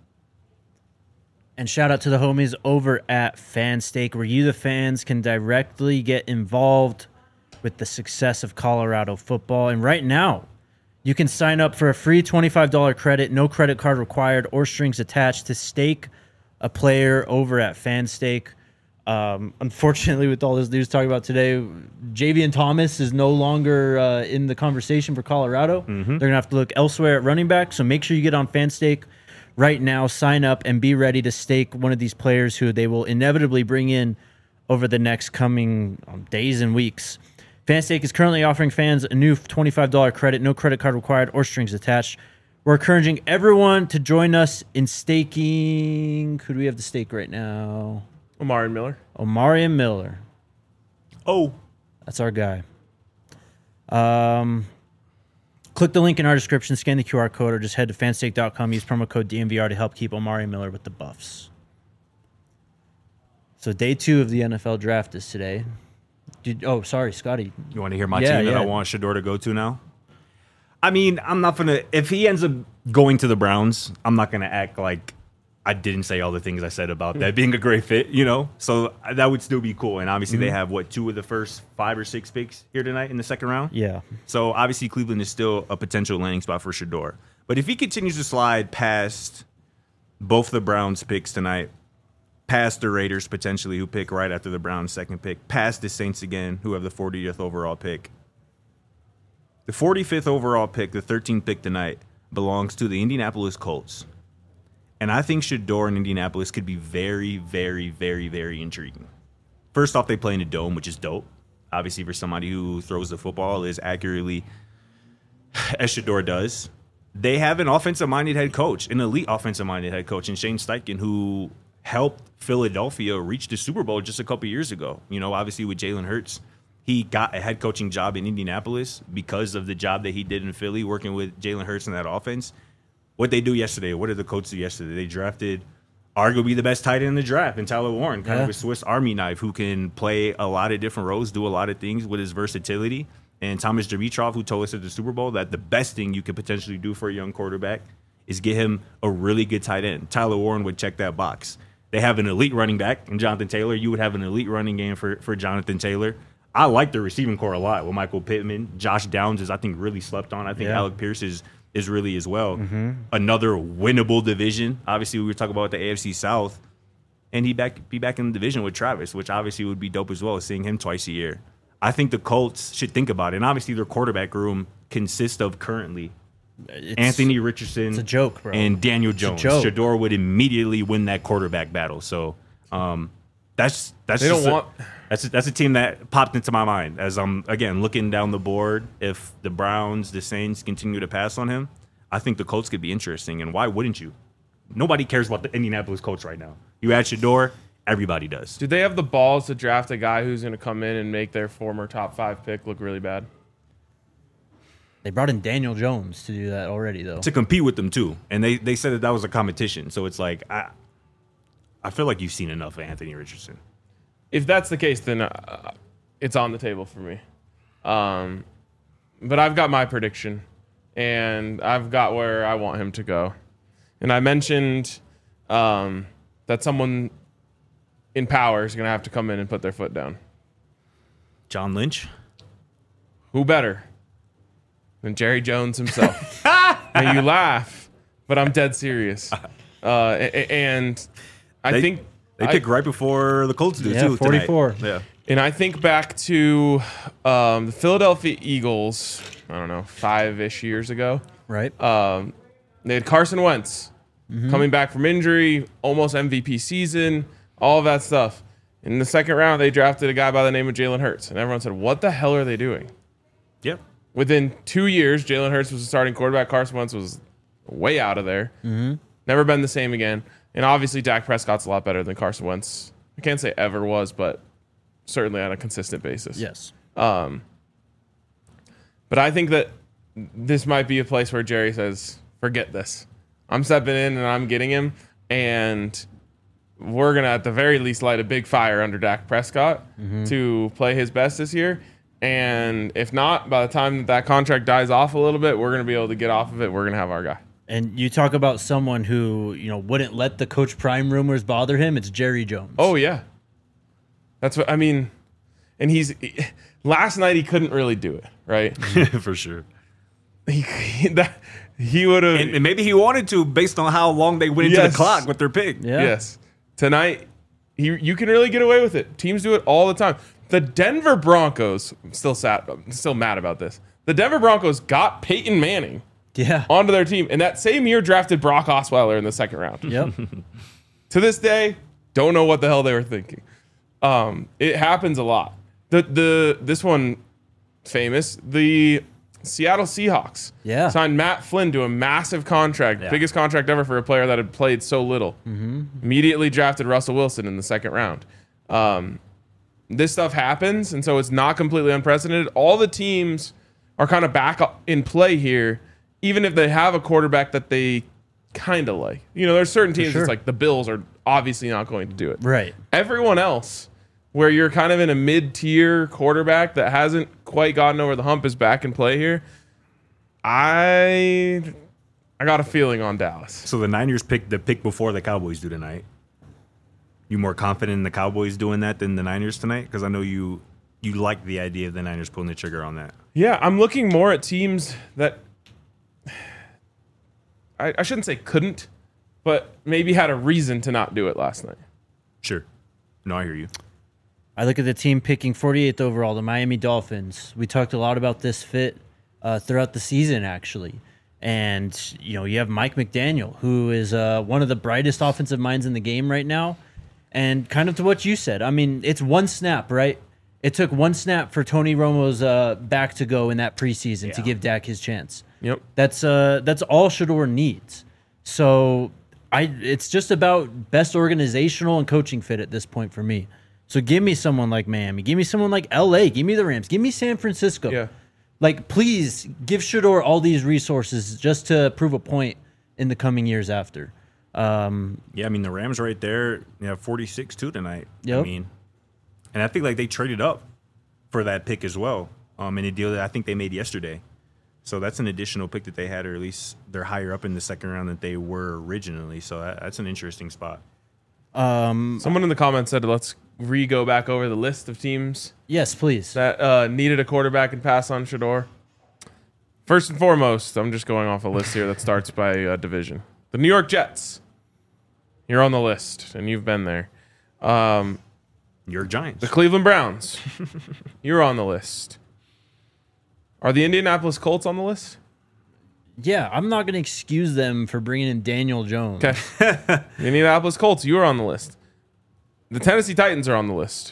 S1: And shout out to the homies over at FanStake, where you, the fans, can directly get involved with the success of Colorado football. And right now, you can sign up for a free twenty-five dollars credit, no credit card required or strings attached, to stake a player over at FanStake. Um, unfortunately, with all this news talking about today, Javian Thomas is no longer uh, in the conversation for Colorado.
S3: Mm-hmm.
S1: They're going to have to look elsewhere at running back. So make sure you get on FanStake right now, sign up, and be ready to stake one of these players who they will inevitably bring in over the next coming um, days and weeks. FanStake is currently offering fans a new twenty-five dollars credit, no credit card required or strings attached. We're encouraging everyone to join us in staking. Who do we have to stake right now?
S2: Omari Miller.
S1: Omari Miller.
S3: Oh,
S1: That's our guy. Um, click the link in our description, scan the Q R code, or just head to fansake dot com. Use promo code D M V R to help keep Omari Miller with the Buffs. So day two of the N F L draft is today. Did, oh, sorry, Scotty.
S3: you want to hear my
S1: Yeah,
S3: team that
S1: yeah.
S3: I want Shador to go to now? I mean, I'm not gonna. If he ends up going to the Browns, I'm not gonna act like I didn't say all the things I said about that being a great fit. You know, so that would still be cool. And obviously, they have what two of the first five or six picks here tonight in the second round.
S1: Yeah.
S3: So obviously, Cleveland is still a potential landing spot for Shador. But if he continues to slide past both the Browns picks tonight, past the Raiders potentially, who pick right after the Browns' second pick, past the Saints again, who have the fortieth overall pick. The forty-fifth overall pick, the thirteenth pick tonight, belongs to the Indianapolis Colts. And I think Shador in Indianapolis could be very, very, very, very intriguing. First off, they play in a dome, which is dope. Obviously, for somebody who throws the football as accurately as Shador does. They have an offensive-minded head coach, an elite offensive-minded head coach in Shane Steichen, who helped Philadelphia reach the Super Bowl just a couple years ago. You know, obviously with Jalen Hurts, he got a head coaching job in Indianapolis because of the job that he did in Philly, working with Jalen Hurts in that offense. What they do yesterday, what did the Colts do yesterday? They drafted arguably the best tight end in the draft in Tyler Warren, kind
S1: Yeah.
S3: of a Swiss Army knife who can play a lot of different roles, do a lot of things with his versatility. And Thomas Dimitrov, who told us at the Super Bowl that the best thing you could potentially do for a young quarterback is get him a really good tight end. Tyler Warren would check that box. They have an elite running back in Jonathan Taylor. You would have an elite running game for, for Jonathan Taylor. I like the receiving core a lot with Michael Pittman. Josh Downs is, I think, really slept on. I think
S1: Yeah.
S3: Alec Pierce is is really as well. Mm-hmm. Another winnable division. Obviously, we were talking about the A F C South. And he back be back in the division with Travis, which obviously would be dope as well, seeing him twice a year. I think the Colts should think about it. And obviously, their quarterback room consists of currently
S1: It's,
S3: Anthony Richardson
S1: It's a joke, bro.
S3: and Daniel Jones.
S1: joke.
S3: Shador would immediately win that quarterback battle. So um, that's that's
S2: They don't
S3: just a,
S2: want-
S3: that's a, that's a team that popped into my mind as I'm again looking down the board. If the Browns, the Saints continue to pass on him, I think the Colts could be interesting. And why wouldn't you? Nobody cares about the Indianapolis Colts right now. You add Shador, everybody does.
S2: Do they have the balls to draft a guy who's going to come in and make their former top five pick look really bad?
S1: They brought in Daniel Jones to do that already, though.
S3: To compete with them too, and they they said that that was a competition. So it's like I I feel like you've seen enough of Anthony Richardson.
S2: If that's the case, then uh, it's on the table for me. Um, but I've got my prediction, and I've got where I want him to go. And I mentioned um, that someone in power is going to have to come in and put their foot down.
S3: John Lynch.
S2: Who better than Jerry Jones himself? Now you laugh, but I'm dead serious. Uh, a- a- and I
S3: They,
S2: think
S3: they
S2: I-
S3: pick right before the Colts do
S1: Yeah,
S3: too. tonight.
S1: forty-four.
S3: Yeah.
S2: And I think back to um, the Philadelphia Eagles, I don't know, five-ish years ago.
S1: Right?
S2: Um, they had Carson Wentz coming back from injury, almost M V P season, all of that stuff. In the second round, they drafted a guy by the name of Jalen Hurts. And everyone said, what the hell are they doing?
S3: Yep.
S2: Within two years, Jalen Hurts was the starting quarterback. Carson Wentz was way out of there. Mm-hmm. Never been the same again. And obviously, Dak Prescott's a lot better than Carson Wentz. I can't say ever was, but certainly on a consistent basis.
S1: Yes.
S2: But I think that this might be a place where Jerry says, forget this. I'm stepping in and I'm getting him. And we're going to, at the very least, light a big fire under Dak Prescott to play his best this year. And if not, by the time that, that contract dies off a little bit, we're going to be able to get off of it. We're going to have our guy.
S1: And you talk about someone who, you know, wouldn't let the Coach Prime rumors bother him. It's Jerry Jones.
S2: Oh, yeah. That's what I mean. And he's last night he couldn't really do it, right?
S3: For sure.
S2: he he, that, he would have.
S3: And, and maybe he wanted to based on how long they went into
S2: Yes.
S3: the clock with their pick.
S1: Yeah.
S2: Yes. Tonight, he, you can really get away with it. Teams do it all the time. The Denver Broncos, I'm still sad, I'm still mad about this. The Denver Broncos got Peyton Manning
S1: Yeah.
S2: onto their team, and that same year drafted Brock Osweiler in the second round.
S1: Yep.
S2: To this day, don't know what the hell they were thinking. Um, it happens a lot. The the this one famous. The Seattle Seahawks
S1: Yeah.
S2: signed Matt Flynn to a massive contract,
S3: Yeah.
S2: biggest contract ever for a player that had played so little. Mm-hmm. Immediately drafted Russell Wilson in the second round. Um, this stuff happens, and so it's not completely unprecedented. All the teams are kind of back up in play here, even if they have a quarterback that they kind of like. You know, there's certain teams
S1: sure.
S2: it's like the Bills are obviously not going to do it.
S1: Right.
S2: Everyone else, where you're kind of in a mid-tier quarterback that hasn't quite gotten over the hump, is back in play here. I I got a feeling on Dallas.
S3: So the Niners picked the pick before the Cowboys do tonight. You more confident in the Cowboys doing that than the Niners tonight? Because I know you you like the idea of the Niners pulling the trigger on that.
S2: Yeah, I'm looking more at teams that I, I shouldn't say couldn't, but maybe had a reason to not do it last night.
S3: Sure. No, I hear you.
S1: I look at the team picking forty-eighth overall, the Miami Dolphins. We talked a lot about this fit uh, throughout the season, actually. And, you know, you have Mike McDaniel, who is uh, one of the brightest offensive minds in the game right now. And kind of to what you said, I mean, it's one snap, right? It took one snap for Tony Romo's uh, back to go in that preseason to
S3: Yeah.
S1: give Dak his chance.
S2: Yep.
S1: That's uh, that's all Shador needs. So I, it's just about best organizational and coaching fit at this point for me. So give me someone like Miami. Give me someone like L A. Give me the Rams. Give me San Francisco.
S2: Yeah.
S1: Like, please give Shador all these resources just to prove a point in the coming years after. Um,
S3: Yeah, I mean, the Rams right there, you have forty-six two tonight. I
S1: Yep.
S3: mean, and I think like they traded up for that pick as well um, in a deal that I think they made yesterday. So that's an additional pick that they had, or at least they're higher up in the second round than they were originally. So that, that's an interesting spot.
S1: um,
S2: Someone in the comments said, let's re-go back over the list of teams
S1: yes, please.
S2: that uh, needed a quarterback and pass on Shador. First and foremost, I'm just going off a list here that starts by uh, division. The New York Jets. You're on the list, and you've been there. Um,
S3: Your Giants.
S2: the Cleveland Browns. You're on the list. Are the Indianapolis Colts on the list?
S1: Yeah, I'm not going to excuse them for bringing in Daniel Jones.
S2: Okay. The Indianapolis Colts, you are on the list. The Tennessee Titans are on the list.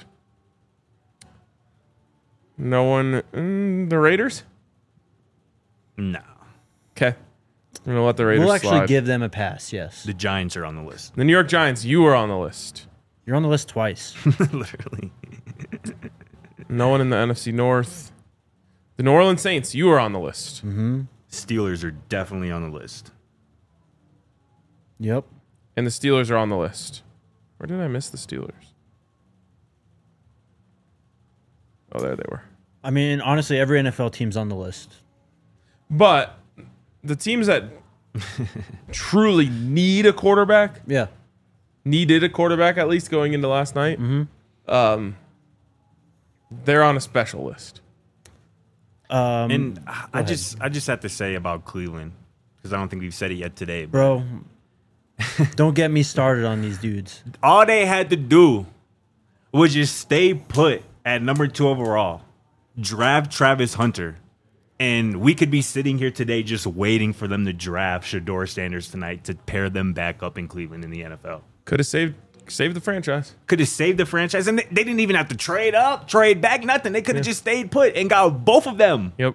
S2: No one. Mm, the Raiders?
S3: No.
S2: Okay. I'm going to let the Raiders
S1: We'll actually
S2: slide.
S1: give them a pass, yes.
S3: The Giants are on the list.
S2: The New York Giants, you are on the list.
S1: You're on the list twice.
S3: Literally.
S2: No one in the N F C North. The New Orleans Saints, you are on the list.
S1: Mm-hmm.
S3: Steelers are definitely on the list.
S1: Yep.
S2: And the Steelers are on the list. Where did I miss the Steelers? Oh, there they were.
S1: I mean, honestly, every N F L team's on the list.
S2: But the teams that truly need a quarterback,
S1: Yeah.
S2: needed a quarterback at least going into last night,
S1: Mm-hmm.
S2: um, they're on a special list.
S1: Um,
S3: And I
S1: ahead.
S3: just I just have to say about Cleveland, because I don't think we've said it yet today. But
S1: bro, don't get me started on these dudes.
S3: all they had to do was just stay put at number two overall, draft Travis Hunter, and we could be sitting here today just waiting for them to draft Shador Sanders tonight to pair them back up in Cleveland in the N F L.
S2: Could have saved saved the franchise.
S3: Could have saved the franchise, and they, they didn't even have to trade up, trade back, nothing. They could have just stayed put and got both of them.
S2: Yep.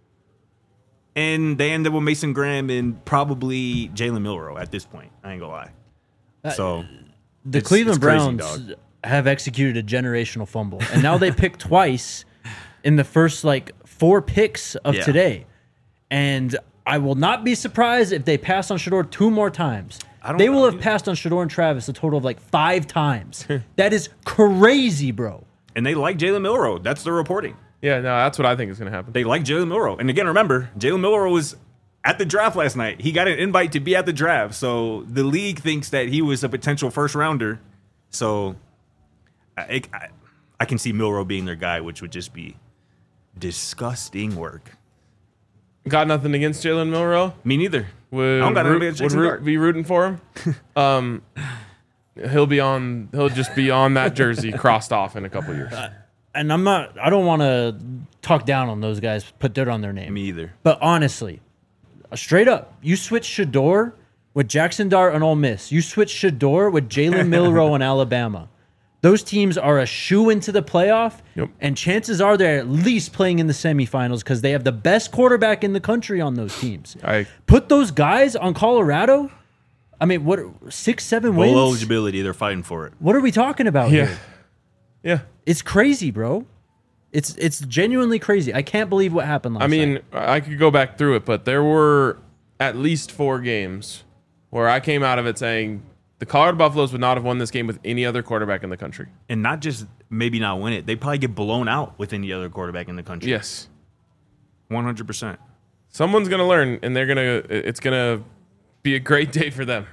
S3: And they ended up with Mason Graham and probably Jalen Milroe at this point. I ain't gonna lie.
S1: Uh,
S3: So
S1: The
S3: It's-
S1: Cleveland
S3: it's crazy,
S1: Browns
S3: dog.
S1: have executed a generational fumble, and now they pick twice in the first like four picks of
S3: Yeah.
S1: today. And I will not be surprised if they pass on Shador two more times.
S3: I don't
S1: They will
S3: know.
S1: have passed on Shador and Travis a total of like five times. That is crazy, bro.
S3: and they like Jalen Milroe. That's the reporting.
S2: Yeah, no, that's what I think is going to happen.
S3: They like Jalen Milroe. And again, remember, Jalen Milroe was at the draft last night. He got an invite to be at the draft. So the league thinks that he was a potential first rounder. So I, I, I can see Milroe being their guy, which would just be disgusting work.
S2: Got nothing against Jalen Milroe.
S3: Me neither.
S2: Would,
S3: I don't got
S2: root,
S3: nothing against
S2: would
S3: Jackson
S2: root-
S3: Dart.
S2: be rooting for him. um, he'll be on. He'll just be on that jersey crossed off in a couple years.
S1: And I'm not, I don't want to talk down on those guys, put dirt on their name.
S3: Me either.
S1: But honestly, uh, straight up, you switch Shador with Jackson Dart on Ole Miss. You switch Shador with Jalen Milroe on Alabama. Those teams are a shoe into the playoff,
S2: Yep.
S1: and chances are they're at least playing in the semifinals because they have the best quarterback in the country on those teams.
S2: I
S1: Put those guys on Colorado. I mean, what six, seven
S3: Bowl
S1: wins?
S3: eligibility, they're fighting for it.
S1: What are we talking about
S2: yeah.
S1: here?
S2: Yeah.
S1: It's crazy, bro. It's it's genuinely crazy. I can't believe what happened last
S2: I mean,
S1: night.
S2: I could go back through it, but there were at least four games where I came out of it saying the Colorado Buffaloes would not have won this game with any other quarterback in the country.
S3: And not just maybe not win it, they probably get blown out with any other quarterback in the country.
S2: Yes.
S3: one hundred percent.
S2: Someone's going to learn, and they're going to, it's going to be a great day for them.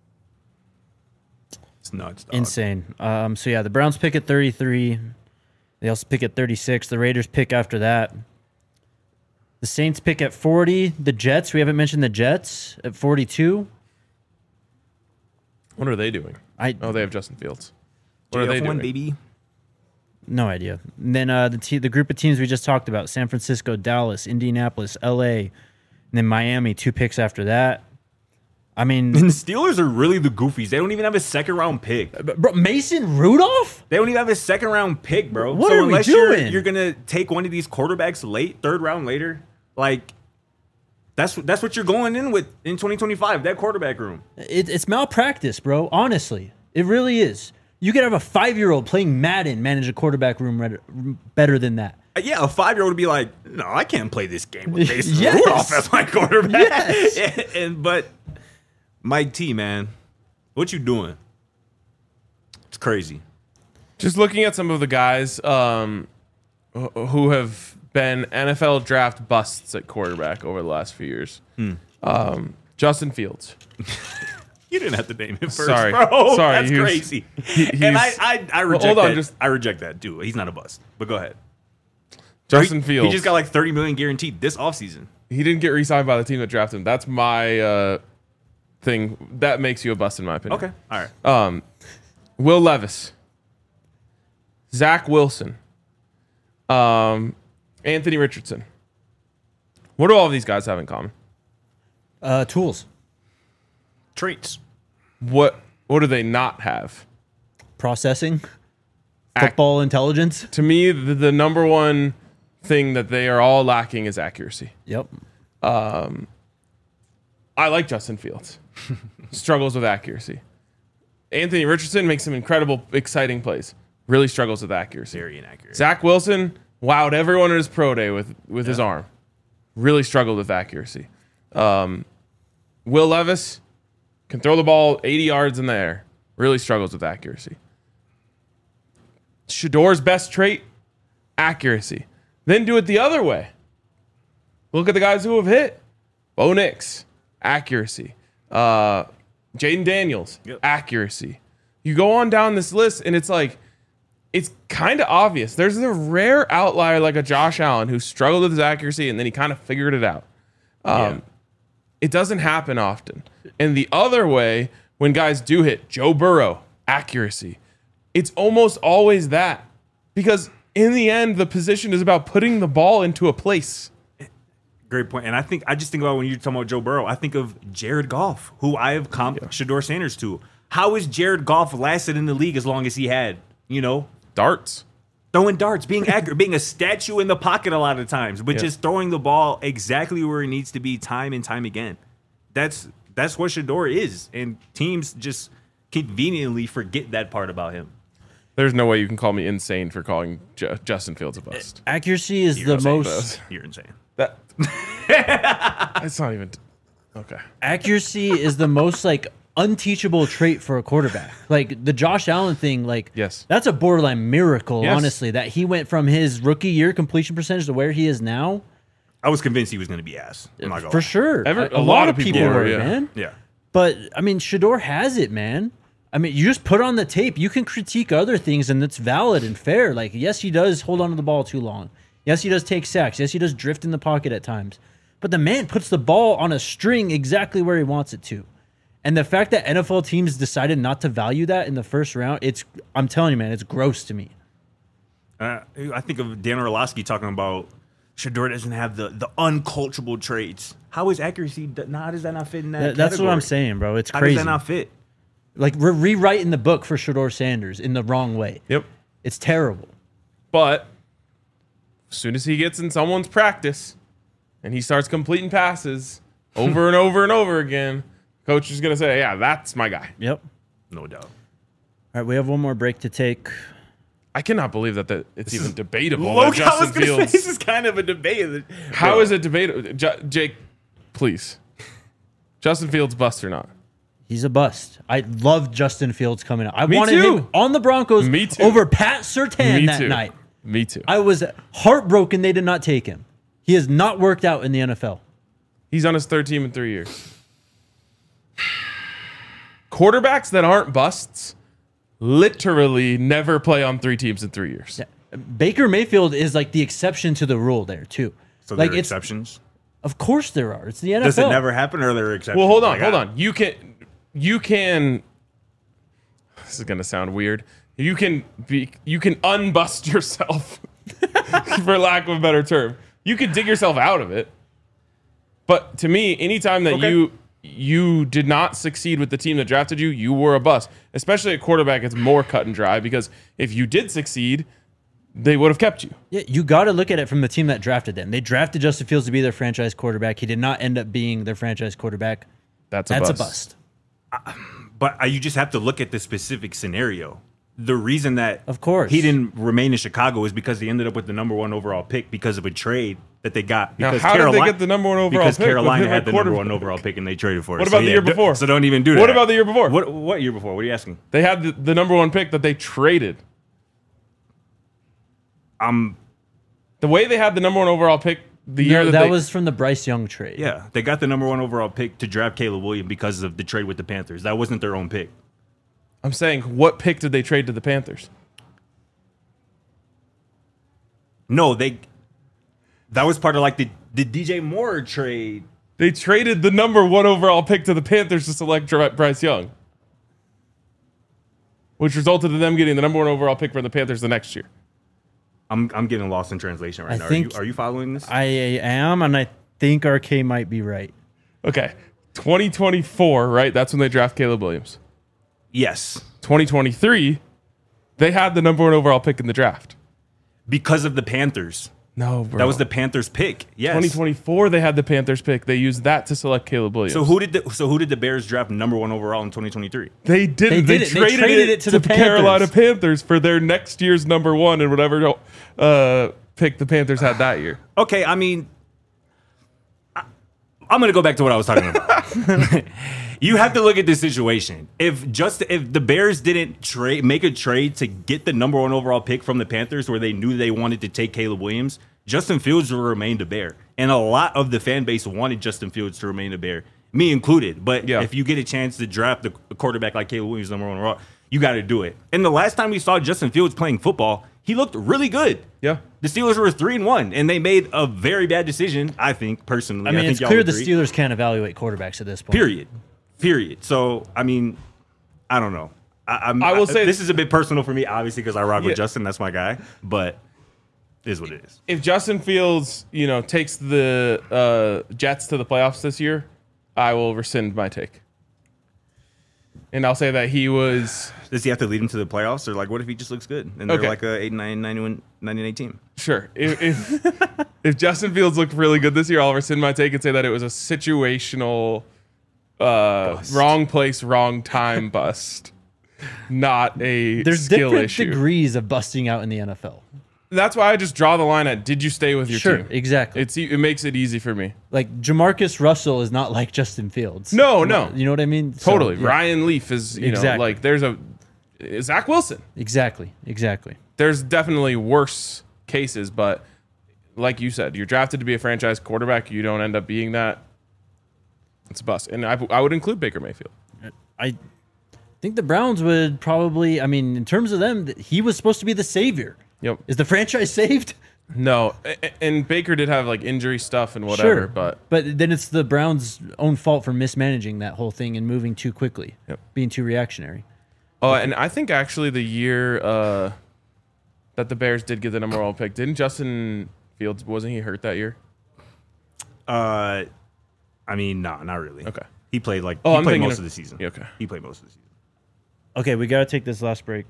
S3: It's nuts, dog.
S1: Insane. Um, so yeah, the Browns pick at thirty-three. They also pick at thirty-six. The Raiders pick after that. The Saints pick at forty. The Jets, we haven't mentioned the Jets at forty-two.
S2: What are they doing?
S1: I
S2: Oh, they have Justin Fields. What are
S3: J F
S2: they
S3: one,
S2: doing?
S3: baby.
S1: no idea. And then uh, the te- the group of teams we just talked about: San Francisco, Dallas, Indianapolis, L A, and then Miami. Two picks after that. I mean,
S3: And the Steelers are really the goofies. They don't even have a second round pick.
S1: bro, Mason Rudolph.
S3: They don't even have a second round pick, bro.
S1: What
S3: so
S1: are we
S3: unless
S1: doing?
S3: You're, you're gonna take one of these quarterbacks late, third round later, like that's that's what you're going in with in twenty twenty-five. That quarterback room.
S1: It, it's malpractice, bro. Honestly, it really is. You could have a five-year-old playing Madden manage a quarterback room red- better than that.
S3: Uh, Yeah, a five year old would be like, no, I can't play this game with Mason
S1: Yes.
S3: Rudolph as my quarterback.
S1: Yes.
S3: and, and but Mike T, man, what you doing? It's crazy.
S2: Just looking at some of the guys um, wh- who have been N F L draft busts at quarterback over the last few years.
S3: Hmm.
S2: Um, Justin Fields.
S3: You didn't have to name him first,
S2: Sorry.
S3: bro.
S2: Sorry,
S3: That's
S2: he was-
S3: crazy.
S2: he-
S3: and I,
S2: he's-
S3: I, I
S2: Well,
S3: reject
S2: hold on,
S3: that.
S2: just-
S3: I reject that too. He's not a bust. But go ahead.
S2: Justin
S3: he,
S2: Fields.
S3: He just got like thirty million guaranteed this offseason.
S2: He didn't get re-signed by the team that drafted him. That's my uh, thing. That makes you a bust, in my opinion.
S3: Okay. All right.
S2: Um, Will Levis, Zach Wilson, um, Anthony Richardson. What do all of these guys have in common?
S1: Uh, tools,
S3: Traits.
S2: What What do they not have?
S1: processing,
S2: Ac-
S1: football intelligence.
S2: To me, the, the number one thing that they are all lacking is accuracy.
S1: Yep.
S2: I like Justin Fields. Struggles with accuracy. Anthony Richardson makes some incredible, exciting plays. Really struggles with accuracy.
S3: Very inaccurate.
S2: Zach Wilson wowed everyone at his pro day with, with his arm. Really struggled with accuracy. Um, Will Levis can throw the ball eighty yards in the air. Really struggles with accuracy. Shador's best trait, accuracy. Then do it the other way. Look at the guys who have hit. Bo Nix, accuracy. Uh, Jaden Daniels,
S3: Yep.
S2: accuracy. You go on down this list, and it's like, it's kind of obvious. There's a rare outlier like a Josh Allen who struggled with his accuracy, and then he kind of figured it out. Um,
S3: Yeah.
S2: It doesn't happen often. And the other way, when guys do hit, Joe Burrow, accuracy. It's almost always that. Because in the end, the position is about putting the ball into a place.
S3: Great point. And I think I just think about when you're talking about Joe Burrow, I think of Jared Goff, who I have comped Shador Sanders to. How has Jared Goff lasted in the league as long as he had? You know,
S2: Darts.
S3: throwing darts, being accurate, being a statue in the pocket a lot of times, but
S2: Yeah.
S3: just throwing the ball exactly where it needs to be time and time again. That's that's what Shador is. And teams just conveniently forget that part about him.
S2: There's no way you can call me insane for calling Ju- Justin Fields a bust.
S1: Accuracy is
S3: You're
S1: the
S3: insane.
S1: most.
S3: You're insane.
S2: That It's not even okay.
S1: Accuracy is the most like unteachable trait for a quarterback. Like the Josh Allen thing, like
S2: Yes.
S1: that's a borderline miracle,
S2: Yes.
S1: honestly, that he went from his rookie year completion percentage to where he is now.
S3: I was convinced he was going to be ass. I'm not gonna
S1: For
S3: lie.
S1: sure.
S2: Every-
S1: a,
S2: a
S1: a
S2: lot
S1: lot
S2: of
S1: of
S2: people
S1: people
S2: were,
S1: were,
S2: yeah.
S1: man.
S3: Yeah.
S1: But I mean, Shador has it, man. I mean, you just put on the tape. You can critique other things, and it's valid and fair. Like, yes, he does hold on to the ball too long. Yes, he does take sacks. Yes, he does drift in the pocket at times. But the man puts the ball on a string exactly where he wants it to. And the fact that N F L teams decided not to value that in the first round, it's I'm telling you, man, it's gross to me.
S3: Uh, I think of Dan Orlovsky talking about Shador doesn't have the, the unculturable traits. How is accuracy? How does that not fit in that?
S1: That- that's what I'm
S3: category?
S1: saying, bro. It's
S3: How
S1: crazy.
S3: does that not fit?
S1: Like we're rewriting the book for Shedeur Sanders in the wrong way.
S2: Yep.
S1: It's terrible.
S2: But as soon as he gets in someone's practice and he starts completing passes over and over and over again, coach is going to say, yeah, that's my guy.
S1: Yep.
S3: No doubt.
S1: All right, we have one more break to take.
S2: I cannot believe that, that it's even debatable
S3: Look,
S2: that
S3: I was
S2: Justin
S3: gonna say,
S2: Fields.
S3: this is kind of a debate.
S2: How
S3: Bro.
S2: is it debatable? J- Jake, please. Justin Fields bust or not?
S1: He's a bust. I love Justin Fields coming out. I
S2: Me
S1: wanted
S2: too.
S1: him on the Broncos
S2: Me too.
S1: over Pat Surtain
S2: Me
S1: that
S2: too.
S1: night.
S2: Me too.
S1: I was heartbroken they did not take him. He has not worked out in the N F L.
S2: He's on his third team in three years. Quarterbacks that aren't busts literally never play on three teams in three years.
S1: Yeah. Baker Mayfield is like the exception to the rule there too.
S3: So
S1: like
S3: there are
S1: it's
S3: exceptions.
S1: of course there are. It's the N F L.
S3: Does it never happen, or are there exceptions?
S2: Well, hold on,
S3: Like,
S2: hold
S3: I-
S2: on. You can, you can. This is gonna sound weird. You can be, you can unbust yourself, for lack of a better term. You can dig yourself out of it. But to me, anytime that
S3: Okay.
S2: you you did not succeed with the team that drafted you, you were a bust. Especially at quarterback, it's more cut and dry because if you did succeed, they would have kept you.
S1: Yeah, you got to look at it from the team that drafted them. They drafted Justin Fields to be their franchise quarterback. He did not end up being their franchise quarterback.
S2: That's a
S1: That's
S2: bust.
S1: a bust.
S3: But uh, you just have to look at the specific scenario. The reason that
S1: Of course.
S3: he didn't remain in Chicago is because he ended up with the number one overall pick because of a trade that they got.
S2: Now,
S3: Because
S2: how did they
S3: Carolina,
S2: get the number one overall
S3: because
S2: pick with
S3: Carolina
S2: him at
S3: had the number one
S2: quarterback?
S3: overall pick and they traded for it.
S2: What
S3: So,
S2: about the
S3: yeah,
S2: year
S3: d-
S2: before?
S3: So don't even do that.
S2: What about the year before?
S3: What what year before? What are you asking?
S2: They had the, the number one pick that they traded.
S3: Um,
S2: The way they had the number one overall pick the
S1: No,
S2: year
S1: that,
S2: that, they,
S1: was from the Bryce Young trade.
S3: yeah, they got the number one overall pick to draft Caleb Williams because of the trade with the Panthers. That wasn't their own pick.
S2: I'm saying, what pick did they trade to the Panthers?
S3: No, they. That was part of like the the D J Moore trade.
S2: They traded the number one overall pick to the Panthers to select Dr- Bryce Young, which resulted in them getting the number one overall pick from the Panthers the next year.
S3: I'm I'm getting lost in translation right
S1: I
S3: now.
S1: think-
S3: are you are you following this?
S1: I am, and I think R K might be right.
S2: Okay, twenty twenty-four, right? That's when they draft Caleb Williams.
S3: yes,
S2: twenty twenty-three, they had the number one overall pick in the draft.
S3: because of the Panthers.
S2: No, bro.
S3: That was the Panthers pick. Yes.
S2: twenty twenty-four. They had the Panthers pick. They used that to select Caleb Williams.
S3: So who did the so who did the Bears draft number one overall in twenty twenty-three?
S2: They didn't.
S1: They
S2: They,
S1: did it. They
S2: traded,
S1: traded
S2: it,
S1: it to
S2: to
S1: the
S2: the Carolina
S1: Panthers.
S2: Panthers for their next year's number one and whatever uh, pick the Panthers had that year.
S3: Okay, I mean, I, I'm gonna go back to what I was talking about. You have to look at this situation. If just if the Bears didn't trade, make a trade to get the number one overall pick from the Panthers, where they knew they wanted to take Caleb Williams, Justin Fields would remain a Bear, and a lot of the fan base wanted Justin Fields to remain a Bear, me included. But
S2: Yeah.
S3: if you get a chance to draft the a quarterback like Caleb Williams, number one overall, you got to do it. And the last time we saw Justin Fields playing football, he looked really good.
S2: Yeah.
S3: The Steelers were three and one, and they made a very bad decision. I think personally.
S1: I mean,
S3: think
S1: it's
S3: y'all
S1: clear the
S3: agree.
S1: Steelers can't evaluate quarterbacks at this point.
S3: Period. Period. So I mean, I don't know. I, I'm,
S2: I will say-
S3: this is a bit personal for me, obviously, because I rock
S2: Yeah.
S3: with Justin. That's my guy. But it is what it is.
S2: If Justin Fields, you know, takes the uh, Jets to the playoffs this year, I will rescind my take. And I'll say that he was
S3: Does he have to lead him to the playoffs, or like, what if he just looks good and they're
S2: Okay.
S3: like a eight nine ninety-one ninety-eight team?
S2: sure. If, if if Justin Fields looked really good this year, I'll rescind my take and say that it was a situational, uh, wrong place, wrong time bust, not a
S1: There's
S2: skill
S1: different
S2: issue.
S1: degrees of busting out in the N F L.
S2: That's why I just draw the line at: did you stay with your
S1: Sure,
S2: team?
S1: exactly.
S2: It's e- it makes it easy for me.
S1: Like Jamarcus Russell is not like Justin Fields.
S2: No, no.
S1: You know what I mean? So,
S2: Totally.
S1: yeah.
S2: Ryan Leaf is, you know,
S1: Exactly.
S2: like there's a Zach Wilson.
S1: Exactly. Exactly.
S2: There's definitely worse cases, but like you said, you're drafted to be a franchise quarterback. You don't end up being that. It's a bust. And I, I would include Baker Mayfield.
S1: I think the Browns would probably, I mean, in terms of them, th- he was supposed to be the savior.
S2: Yep.
S1: Is the franchise saved?
S2: No. a- a- And Baker did have like injury stuff and whatever,
S1: Sure.
S2: but
S1: But then it's the Browns' own fault for mismanaging that whole thing and moving too quickly,
S2: Yep.
S1: being too reactionary.
S2: oh, and I think actually the year uh, that the Bears did get the number one pick, didn't Justin Fields, wasn't he hurt that year?
S3: Uh, I mean, no, not really.
S2: Okay.
S3: He played like
S2: Oh,
S3: he
S2: I'm
S3: played
S2: thinking
S3: most
S2: of-
S3: of the season.
S2: Yeah, okay.
S3: He played most of the season.
S1: Okay, we got to take this last break.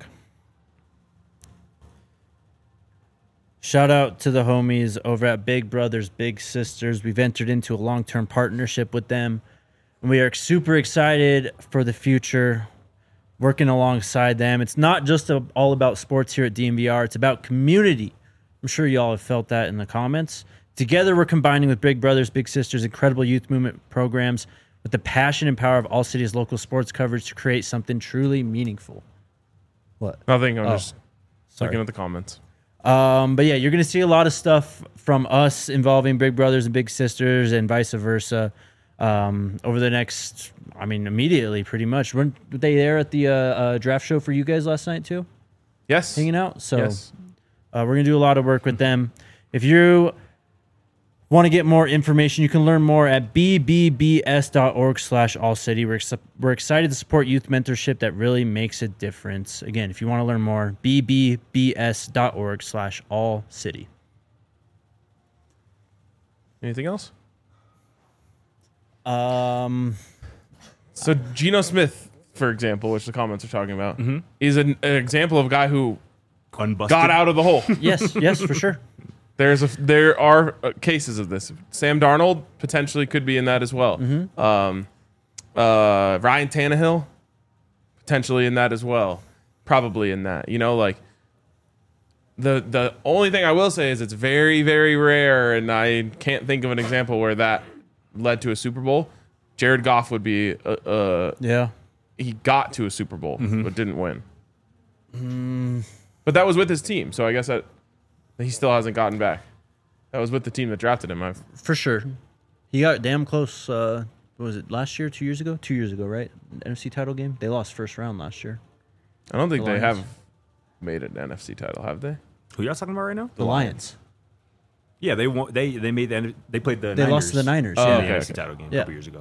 S1: Shout out to the homies over at Big Brothers Big Sisters. We've entered into a long-term partnership with them, and we are super excited for the future, working alongside them. It's not just a, all about sports here at D M V R. It's about community. I'm sure y'all have felt that in the comments. Together, we're combining with Big Brothers Big Sisters' incredible youth movement programs with the passion and power of All City's local sports coverage to create something truly meaningful. What?
S2: Nothing. I'm
S1: Oh,
S2: just
S1: sorry.
S2: looking at the comments.
S1: Um, but yeah, you're going to see a lot of stuff from us involving Big Brothers and Big Sisters and vice versa um, over the next, I mean, immediately pretty much. Weren't they there at the uh, uh, draft show for you guys last night too?
S2: Yes.
S1: Hanging out? So
S2: Yes.
S1: uh, we're going to do a lot of work with them. If you want to get more information, you can learn more at b b b s dot org slash all city. We're, ex- we're excited to support youth mentorship that really makes a difference. Again, if you want to learn more, b b b s dot org slash all city.
S2: Anything else?
S1: Um,
S2: So Geno Smith, for example, which the comments are talking about,
S1: Mm-hmm.
S2: is an, an example of a guy who
S3: Unbusted.
S2: got out of the hole.
S1: yes, yes, for sure.
S2: There's a there are uh, cases of this. Sam Darnold potentially could be in that as well.
S1: Mm-hmm.
S2: Um, uh, Ryan Tannehill potentially in that as well. Probably in that. You know, like the the only thing I will say is it's very very rare, and I can't think of an example where that led to a Super Bowl. Jared Goff would be. Uh, uh,
S1: Yeah.
S2: he got to a Super Bowl
S1: Mm-hmm.
S2: but didn't win.
S1: Mm.
S2: But that was with his team, so I guess that he still hasn't gotten back. That was with the team that drafted him. I've,
S1: For sure. He got damn close. Uh, what was it, last year, two years ago? Two years ago, right? N F C title game? They lost first round last year.
S2: I don't think
S1: The
S2: they
S1: Lions.
S2: have made an N F C title, have they?
S3: Who y'all talking about right now?
S1: The Lions.
S3: Yeah, they won, they they made the they played the
S1: They
S3: Niners
S1: lost to the Niners.
S2: Oh,
S3: in
S1: yeah.
S3: the
S2: okay,
S3: N F C
S2: okay.
S3: title game
S1: Yeah.
S3: a couple years ago.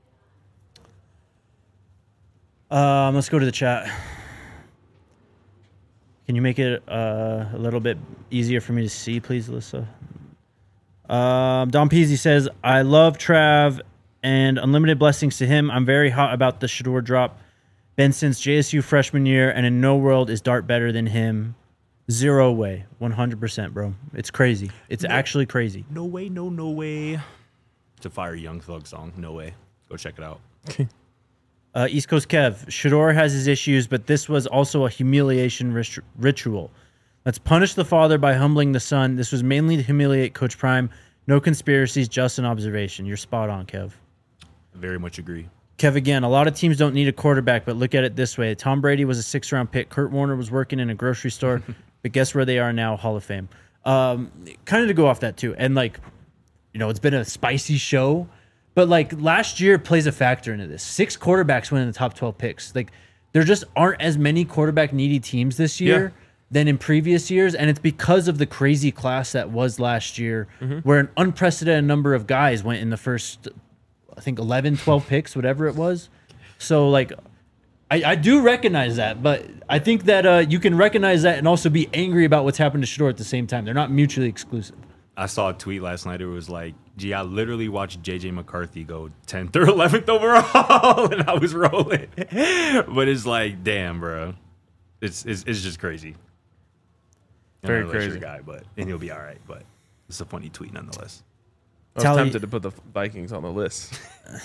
S1: Um, let's go to the chat. Can you make it uh, a little bit easier for me to see, please, Alyssa? Um, Don Peasy says, I love Trav and unlimited blessings to him. I'm very hot about the Shador drop. Been since J S U freshman year, and in no world is Dart better than him. Zero way. one hundred percent, bro. It's crazy. It's actually crazy.
S3: No way, no, no way. It's a fire Young Thug song. No way. Go check it out.
S1: Uh, East Coast Kev, Shador has his issues, but this was also a humiliation rit- ritual. Let's punish the father by humbling the son. This was mainly to humiliate Coach Prime. No conspiracies, just an observation. You're spot on, Kev.
S3: Very much agree.
S1: Kev, again, a lot of teams don't need a quarterback, but look at it this way. Tom Brady was a six-round pick. Kurt Warner was working in a grocery store, but guess where they are now? Hall of Fame. Um, kind of to go off that, too. And, like, you know, it's been a spicy show, but, like, last year plays a factor into this. Six quarterbacks went in the top twelve picks. Like, there just aren't as many quarterback-needy teams this year
S2: Yeah.
S1: than in previous years, and it's because of the crazy class that was last year, where an unprecedented number of guys went in the first, I think, eleven, twelve picks, whatever it was. So, like, I, I do recognize that, but I think that uh, you can recognize that and also be angry about what's happened to Shador at the same time. They're not mutually exclusive.
S3: I saw a tweet last night. It was like, gee, I literally watched J J McCarthy go tenth or eleventh overall, and I was rolling. But it's like, damn, bro. It's it's, it's just crazy. I'm
S2: Very
S3: not really sure
S2: crazy.
S3: guy, but and he'll be all right. But it's a funny tweet nonetheless.
S2: I was
S1: Tally-
S2: tempted to put the Vikings on the list.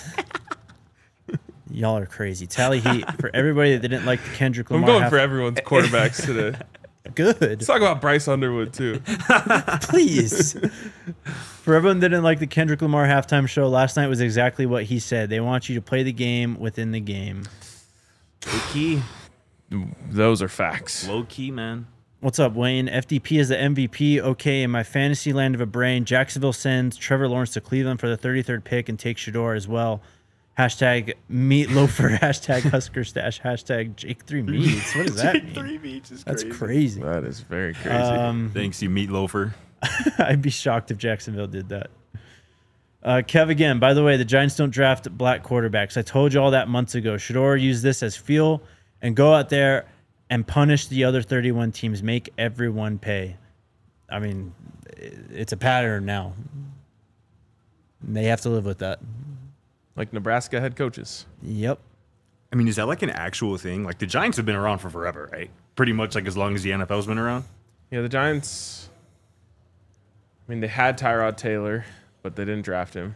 S1: Y'all are crazy. Tally Heat, for everybody that didn't like the Kendrick
S2: I'm
S1: Lamar.
S2: going
S1: half-
S2: for everyone's quarterbacks today.
S1: Good.
S2: Let's talk about Bryce Underwood, too.
S1: Please. For everyone that didn't like the Kendrick Lamar halftime show, last night was exactly what he said. They want you to play the game within the game.
S3: Low key,
S2: Those are facts.
S3: low key, man.
S1: What's up, Wayne? F D P is the M V P. Okay, in my fantasy land of a brain, Jacksonville sends Trevor Lawrence to Cleveland for the thirty-third pick and takes Shador as well. Hashtag meatloafer, hashtag Husker stash, hashtag Jake three meats. What does that mean?
S3: Three beats is
S1: That's
S3: crazy.
S1: crazy.
S2: That is very crazy.
S1: Um,
S3: Thanks, you meat loafer.
S1: I'd be shocked if Jacksonville did that. Uh, Kev, again, by the way, the Giants don't draft black quarterbacks. I told you all that months ago. Shador use this as fuel and go out there and punish the other thirty-one teams. Make everyone pay. I mean, it's a pattern now. They have to live with that.
S2: Like Nebraska head coaches.
S1: Yep.
S3: I mean, is that like an actual thing? Like the Giants have been around for forever, right? Pretty much like as long as the N F L's been around.
S2: Yeah, the Giants. I mean, they had Tyrod Taylor, but they didn't draft him.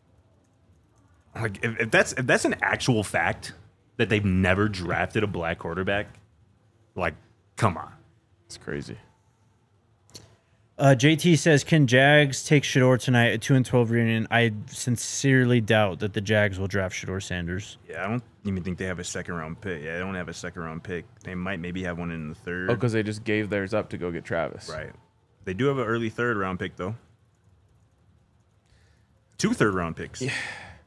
S3: Like if, if that's if that's an actual fact that they've never drafted a black quarterback, like, come on,
S2: It's crazy.
S1: Uh, J T says, "Can Jags take Shador tonight at two and twelve reunion?" I sincerely doubt that the Jags will draft Shador Sanders.
S3: Yeah, I don't even think they have a second round pick. Yeah, they don't have a second round pick. They might maybe have one in the third.
S2: Oh, because they just gave theirs up to go get Travis.
S3: Right. They do have an early third round pick though. Two third round picks. Yeah.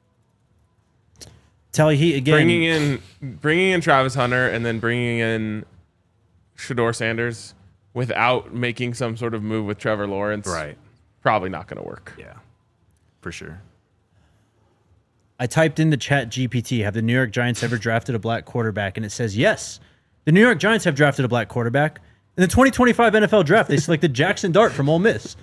S1: Tally Heat again.
S2: Bringing in, bringing in Travis Hunter and then bringing in Shador Sanders without making some sort of move with Trevor Lawrence.
S3: Right.
S2: Probably not going to work.
S3: Yeah. For sure.
S1: I typed in the chat G P T, have the New York Giants ever drafted a black quarterback? And it says yes. The New York Giants have drafted a black quarterback. In the twenty twenty-five N F L draft, they selected Jackson Dart from Ole Miss.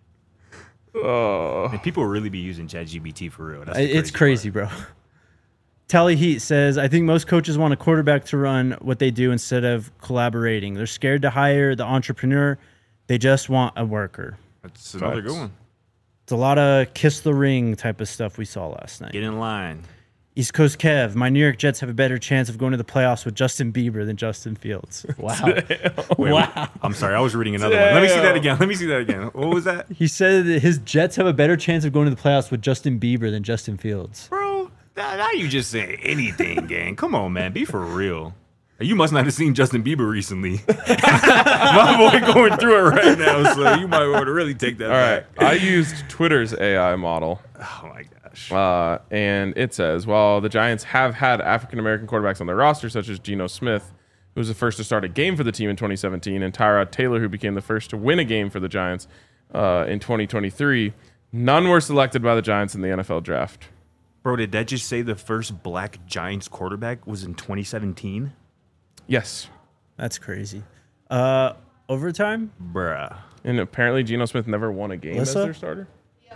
S2: Oh.
S3: And people really be using ChatGPT for real. That's the
S1: It's crazy,
S3: part.
S1: bro. Tally Heat says, I think most coaches want a quarterback to run what they do instead of collaborating. They're scared to hire the entrepreneur. They just want a worker.
S3: That's another
S2: Facts.
S3: good one.
S1: It's a lot of kiss the ring type of stuff we saw last night.
S3: Get in line.
S1: East Coast Kev, my New York Jets have a better chance of going to the playoffs with Justin Bieber than Justin Fields. Wow.
S3: Wait,
S1: wow.
S3: I'm sorry, I was reading another one. Let me see that again. Let me see that again. What was that?
S1: He said that his Jets have a better chance of going to the playoffs with Justin Bieber than Justin Fields.
S3: Bro, now, now you just saying anything, gang. Come on, man. Be for real. You must not have seen Justin Bieber recently. My boy going through it right now, so you might want to really take that
S2: All right.
S3: back.
S2: I used Twitter's A I model.
S3: Oh, my gosh.
S2: Uh, and it says, while the Giants have had African-American quarterbacks on their roster, such as Geno Smith, who was the first to start a game for the team in twenty seventeen, and Tyrod Taylor, who became the first to win a game for the Giants uh, in twenty twenty-three, none were selected by the Giants in the N F L draft.
S3: Bro, did that just say the first black Giants quarterback was in twenty seventeen?
S2: Yes.
S1: That's crazy. Uh, overtime?
S3: Bruh.
S2: And apparently Geno Smith never won a game
S1: Alyssa?
S2: as their starter.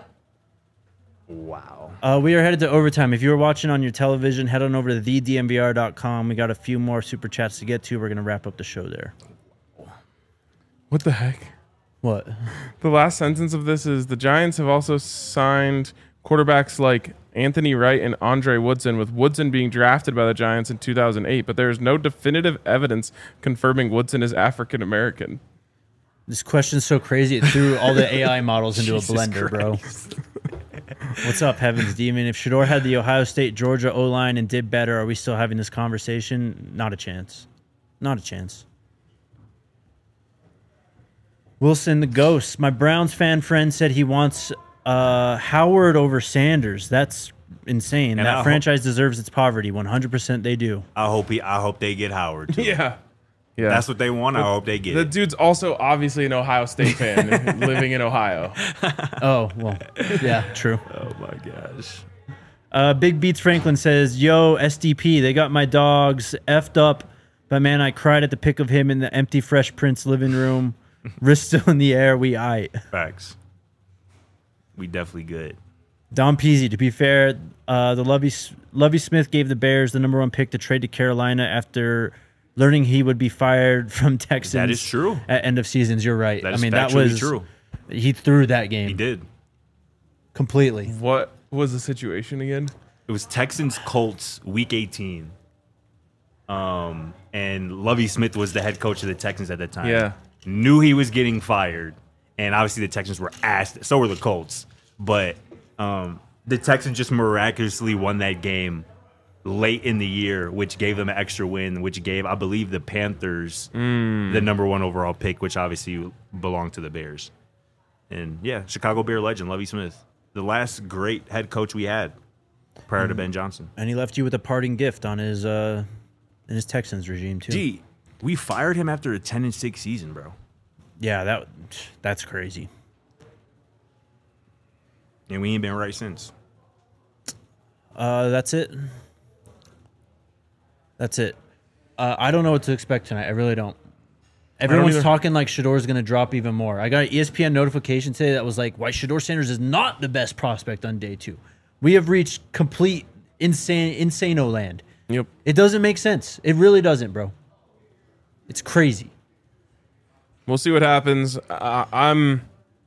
S3: Wow.
S1: Uh, we are headed to overtime. If you were watching on your television, head on over to the d m v r dot com. We got a few more super chats to get to. We're going to wrap up the show there.
S2: What the heck?
S1: What?
S2: The last sentence of this is the Giants have also signed quarterbacks like Anthony Wright and Andre Woodson, with Woodson being drafted by the Giants in two thousand eight, but there is no definitive evidence confirming Woodson is African American.
S1: This question's so crazy, it threw all the A I models into
S3: Jesus
S1: a blender,
S3: Christ.
S1: bro. What's up, Heavens Demon? If Shador had the Ohio State, Georgia O-line and did better, are we still having this conversation? Not a chance. Not a chance. Wilson the Ghost. My Browns fan friend said he wants uh, Howard over Sanders. That's insane.
S3: And
S1: that
S3: I
S1: franchise deserves its poverty. one hundred percent they do.
S3: I hope he. I hope they get Howard. Too.
S2: Yeah. Yeah.
S3: That's what they want. I hope they get
S2: The
S3: it.
S2: dude's also obviously an Ohio State fan living in Ohio.
S1: Oh, well, yeah, true.
S3: Oh my gosh.
S1: Uh, Big Beats Franklin says, yo, S D P, they got my dogs effed up, but man, I cried at the pic of him in the empty Fresh Prince living room. Wrist still in the air, we aight.
S3: Facts. We definitely good.
S1: Don Peasy, to be fair, uh, the Lovey, Lovey Smith gave the Bears the number one pick to trade to Carolina after learning he would be fired from Texans.
S3: That is true.
S1: At end of seasons, you're right.
S3: That
S1: I
S3: is
S1: mean, that
S3: factually
S1: was
S3: true.
S1: He threw that game.
S3: He did.
S1: Completely.
S2: What was the situation again?
S3: It was Texans Colts week eighteen. Um, and Lovey Smith was the head coach of the Texans at that time.
S2: Yeah.
S3: Knew he was getting fired, and obviously the Texans were asked. So were the Colts, but um, the Texans just miraculously won that game late in the year, which gave them an extra win, which gave, I believe, the Panthers
S2: Mm.
S3: the number one overall pick, which obviously belonged to the Bears. And yeah, Chicago Bear legend Lovey Smith, the last great head coach we had prior to Ben Johnson.
S1: And he left you with a parting gift on his uh, in his Texans regime, too.
S3: Gee, we fired him after a ten and six season, bro.
S1: Yeah, that that's crazy.
S3: And we ain't been right since.
S1: Uh, that's it. That's it. Uh, I don't know what to expect tonight. I really don't. Everyone's
S2: either.
S1: talking like Shador's going to drop even more. I got an E S P N notification today that was like, why Shador Sanders is not the best prospect on day two. We have reached complete insane, insano land.
S2: Yep.
S1: It doesn't make sense. It really doesn't, bro. It's crazy.
S2: We'll see what happens. Uh, I'm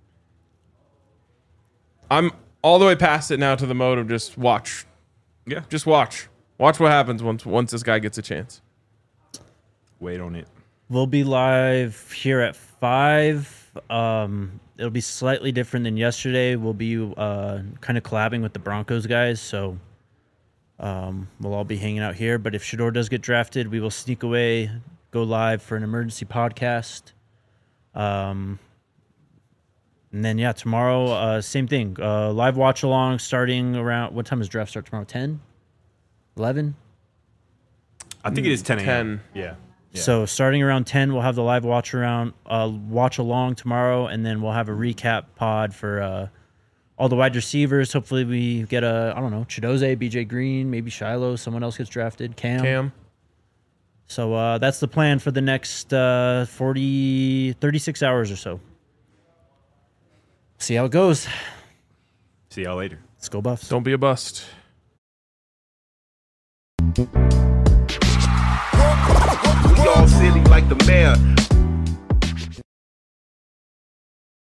S2: I'm all the way past it now to the mode of just watch.
S3: Yeah.
S2: Just watch. Watch what happens once once this guy gets a chance.
S3: Wait on it.
S1: We'll be live here at five. Um, it'll be slightly different than yesterday. We'll be uh, kind of collabing with the Broncos guys, so um, we'll all be hanging out here. But if Shedeur does get drafted, we will sneak away, go live for an emergency podcast. Um, and then, yeah, tomorrow, uh, same thing. Uh, live watch along starting around, what time does draft start tomorrow? ten? eleven?
S3: I think it is ten a.m.
S2: ten.
S3: Yeah. Yeah.
S1: So starting around ten, we'll have the live watch around, uh, watch along tomorrow, and then we'll have a recap pod for uh, all the wide receivers. Hopefully we get a, I don't know, Chidoze, B J Green, maybe Shiloh, someone else gets drafted, Cam.
S2: Cam.
S1: So uh, that's the plan for the next uh, forty, thirty-six hours or so. See how it goes.
S3: See y'all later.
S1: Let's go Buffs.
S2: Don't be a bust.
S4: We all silly like the mayor.